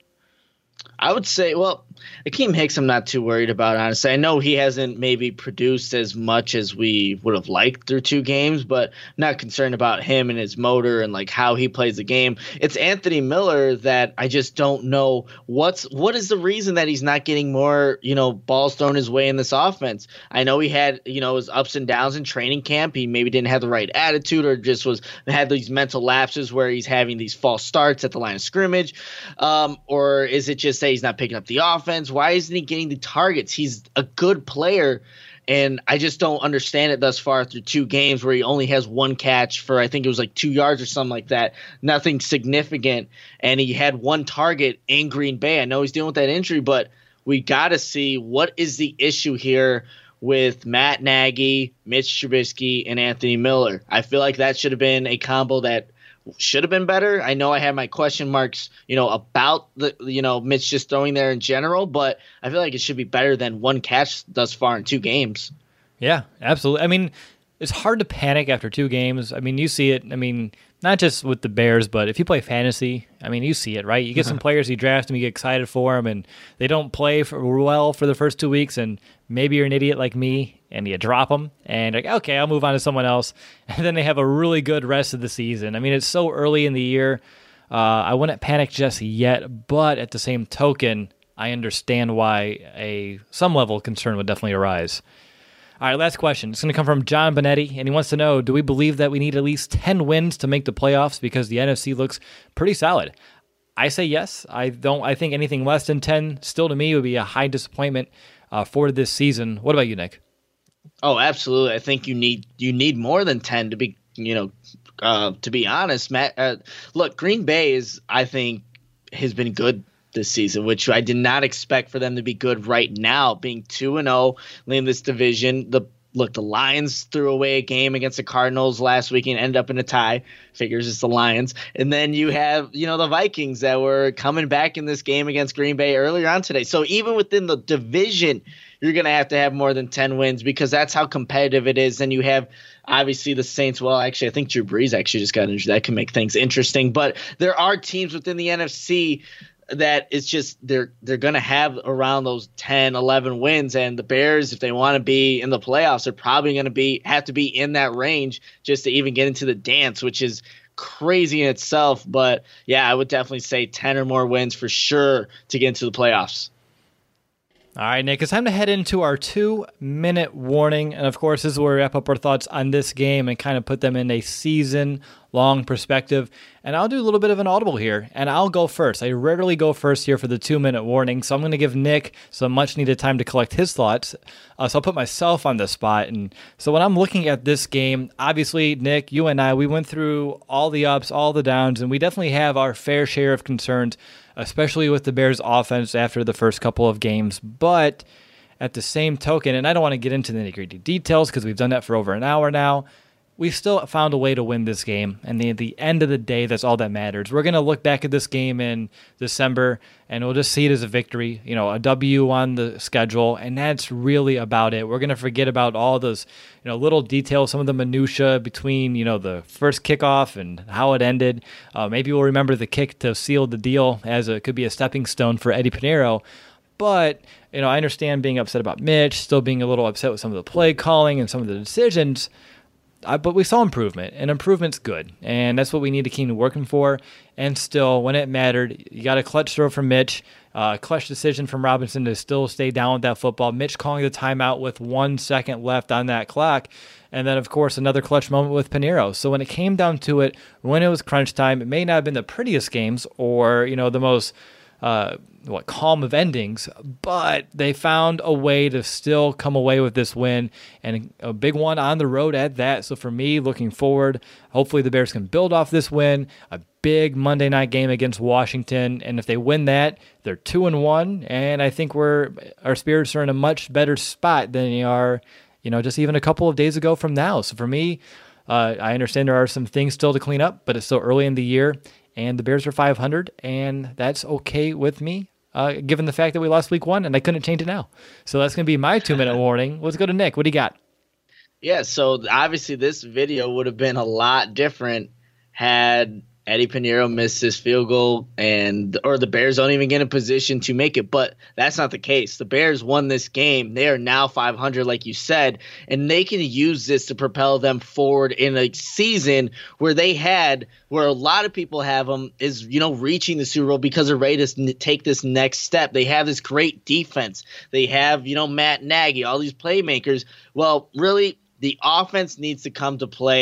I would say, well, Akeem Hicks I'm not too worried about, honestly. I know he hasn't maybe produced as much as we would have liked through two games, but I'm not concerned about him and his motor and like how he plays the game. It's Anthony Miller that I just don't know what's what is the reason that he's not getting more, you know, balls thrown his way in this offense. I know he had, you know, his ups and downs in training camp. He maybe didn't have the right attitude or just was had these mental lapses where he's having these false starts at the line of scrimmage. Um, or is it just that he's not picking up the offense? Why isn't he getting the targets? He's a good player, And I just don't understand it thus far through two games where he only has one catch for, I think it was like two yards or something like that. Nothing significant. And he had one target in Green Bay. I know he's dealing with that injury, but we got to see what is the issue here with Matt Nagy, Mitch Trubisky, and Anthony Miller. I feel like that should have been a combo that should have been better. I know I had my question marks, you know, about the, you know, Mitch just throwing there in general, but I feel like it should be better than one catch thus far in two games. Yeah, absolutely. I mean, it's hard to panic after two games. I mean, you see it. I mean, not just with the Bears, but if you play fantasy, I mean, you see it, right? You get some players, you draft them, you get excited for them, and they don't play for, well for the first two weeks, and maybe you're an idiot like me, and you drop them, and you're like, okay, I'll move on to someone else, and then they have a really good rest of the season. I mean, it's so early in the year. Uh, I wouldn't panic just yet, but at the same token, I understand why a some level of concern would definitely arise. All right, last question. It's going to come from John Benetti, and he wants to know, do we believe that we need at least ten wins to make the playoffs because the N F C looks pretty solid? I say yes. I don't. I think anything less than ten still to me would be a high disappointment uh, for this season. What about you, Nick? Oh, absolutely. I think you need you need more than ten to be, you know, uh, to be honest, Matt. Uh, look, Green Bay is, I think, has been good this season, which I did not expect for them to be good right now, being two and oh, leading this division. The Look, the Lions threw away a game against the Cardinals last week and ended up in a tie. Figures it's the Lions. And then you have, you know, the Vikings that were coming back in this game against Green Bay earlier on today. So even within the division, you're going to have to have more than ten wins because that's how competitive it is. And you have obviously the Saints. Well, actually, I think Drew Brees actually just got injured. That can make things interesting. But there are teams within the N F C that it's just they're they're going to have around those ten, eleven wins, and the Bears, if they want to be in the playoffs, are probably going to be have to be in that range just to even get into the dance, which is crazy in itself. But yeah, I would definitely say ten or more wins for sure to get into the playoffs. All right, Nick, it's time to head into our two-minute warning. And, of course, this is where we wrap up our thoughts on this game and kind of put them in a season-long perspective. And I'll do a little bit of an audible here, and I'll go first. I rarely go first here for the two-minute warning, so I'm going to give Nick some much-needed time to collect his thoughts. Uh, so I'll put myself on the spot. And so when I'm looking at this game, obviously, Nick, you and I, we went through all the ups, all the downs, and we definitely have our fair share of concerns, especially with the Bears' offense after the first couple of games. But at the same token, and I don't want to get into the nitty-gritty details because we've done that for over an hour now, we still found a way to win this game. And at the end of the day, that's all that matters. We're going to look back at this game in December, and we'll just see it as a victory, you know, a W on the schedule, and that's really about it. We're going to forget about all those, you know, little details, some of the minutia between, you know, the first kickoff and how it ended. Uh, maybe we'll remember the kick to seal the deal as it could be a stepping stone for Eddie Pinheiro. But, you know, I understand being upset about Mitch, still being a little upset with some of the play calling and some of the decisions. I, but we saw improvement, and improvement's good, and that's what we need to keep working for. And still, when it mattered, you got a clutch throw from Mitch, a uh, clutch decision from Robinson to still stay down with that football. Mitch calling the timeout with one second left on that clock, and then, of course, another clutch moment with Pinheiro. So when it came down to it, when it was crunch time, it may not have been the prettiest games or, you know, the most uh, what calm of endings, but they found a way to still come away with this win, and a big one on the road at that. So for me, looking forward, hopefully the Bears can build off this win, a big Monday night game against Washington, and if they win that, they're two and one, and I think we're our spirits are in a much better spot than they are, you know, just even a couple of days ago from now. So for me, uh, I understand there are some things still to clean up, but it's still early in the year, and the Bears are five hundred, and that's okay with me. Uh, given the fact that we lost week one and I couldn't change it now. So that's going to be my two-minute warning. Let's go to Nick. What do you got? Yeah, so obviously this video would have been a lot different had Eddie Pinheiro missed his field goal and or the Bears don't even get in a position to make it. But that's not the case. The Bears won this game. They are now five hundred, like you said, and they can use this to propel them forward in a season where they had – where a lot of people have them is, you know, reaching the Super Bowl because they're ready to take this next step. They have this great defense. They have, you know, Matt Nagy, all these playmakers. Well, really, the offense needs to come to play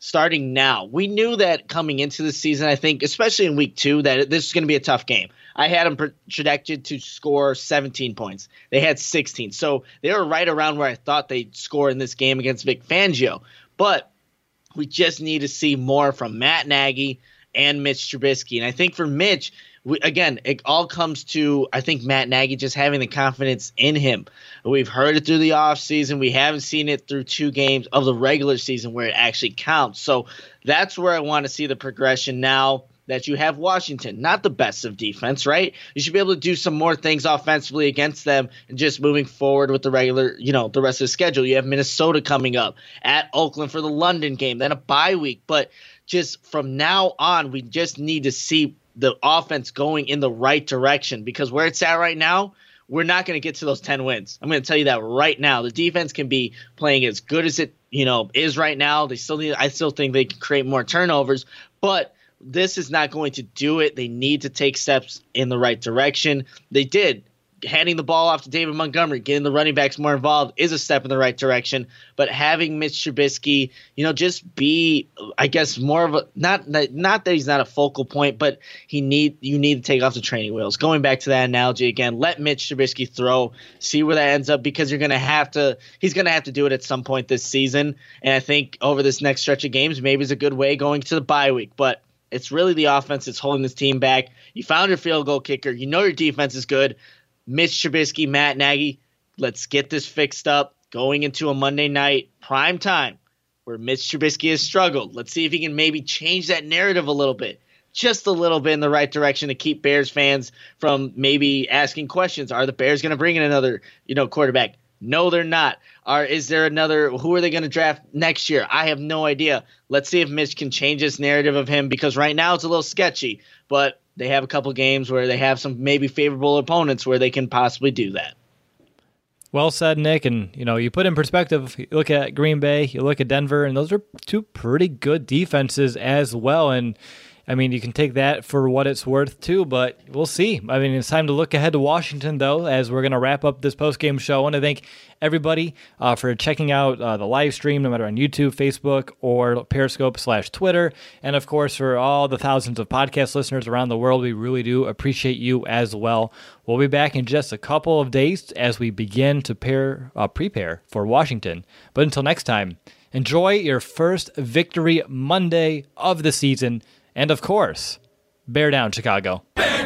starting now. We knew that coming into the season, I think, especially in week two, that this is going to be a tough game. I had them projected to score seventeen points. They had sixteen. So they were right around where I thought they'd score in this game against Vic Fangio. But we just need to see more from Matt Nagy and Mitch Trubisky. And I think for Mitch, we, again, it all comes to, I think, Matt Nagy just having the confidence in him. We've heard it through the offseason. We haven't seen it through two games of the regular season where it actually counts. So that's where I want to see the progression now that you have Washington. Not the best of defense, right? You should be able to do some more things offensively against them and just moving forward with the regular, you know, the rest of the schedule. You have Minnesota coming up, at Oakland for the London game, then a bye week. But just from now on, we just need to see the offense going in the right direction, because where it's at right now, we're not going to get to those ten wins. I'm going to tell you that right now. The defense can be playing as good as it, you know, is right now. They still need, I still think they can create more turnovers, but this is not going to do it. They need to take steps in the right direction. They did. Handing the ball off to David Montgomery, getting the running backs more involved is a step in the right direction. But having Mitch Trubisky, you know, just be, I guess, more of a not not that he's not a focal point, but he need you need to take off the training wheels. Going back to that analogy again, let Mitch Trubisky throw, see where that ends up, because you're gonna have to. He's gonna have to do it at some point this season. And I think over this next stretch of games, maybe it's a good way going to the bye week, but. It's really the offense that's holding this team back. You found your field goal kicker. You know your defense is good. Mitch Trubisky, Matt Nagy, let's get this fixed up going into a Monday night prime time where Mitch Trubisky has struggled. Let's see if he can maybe change that narrative a little bit, just a little bit in the right direction to keep Bears fans from maybe asking questions. Are the Bears going to bring in another, you know, quarterback? No, they're not. Or is there another? Who are they going to draft next year? I have no idea. Let's see if Mitch can change this narrative of him, because right now it's a little sketchy, but they have a couple games where they have some maybe favorable opponents where they can possibly do that. Well said, Nick. And, you know, you put in perspective, you look at Green Bay, you look at Denver, and those are two pretty good defenses as well. And, I mean, you can take that for what it's worth, too, but we'll see. I mean, it's time to look ahead to Washington, though, as we're going to wrap up this post-game show. I want to thank everybody uh, for checking out uh, the live stream, no matter on YouTube, Facebook, or Periscope slash Twitter. And, of course, for all the thousands of podcast listeners around the world, we really do appreciate you as well. We'll be back in just a couple of days as we begin to pair, uh, prepare for Washington. But until next time, enjoy your first Victory Monday of the season. And, of course, bear down, Chicago. Bear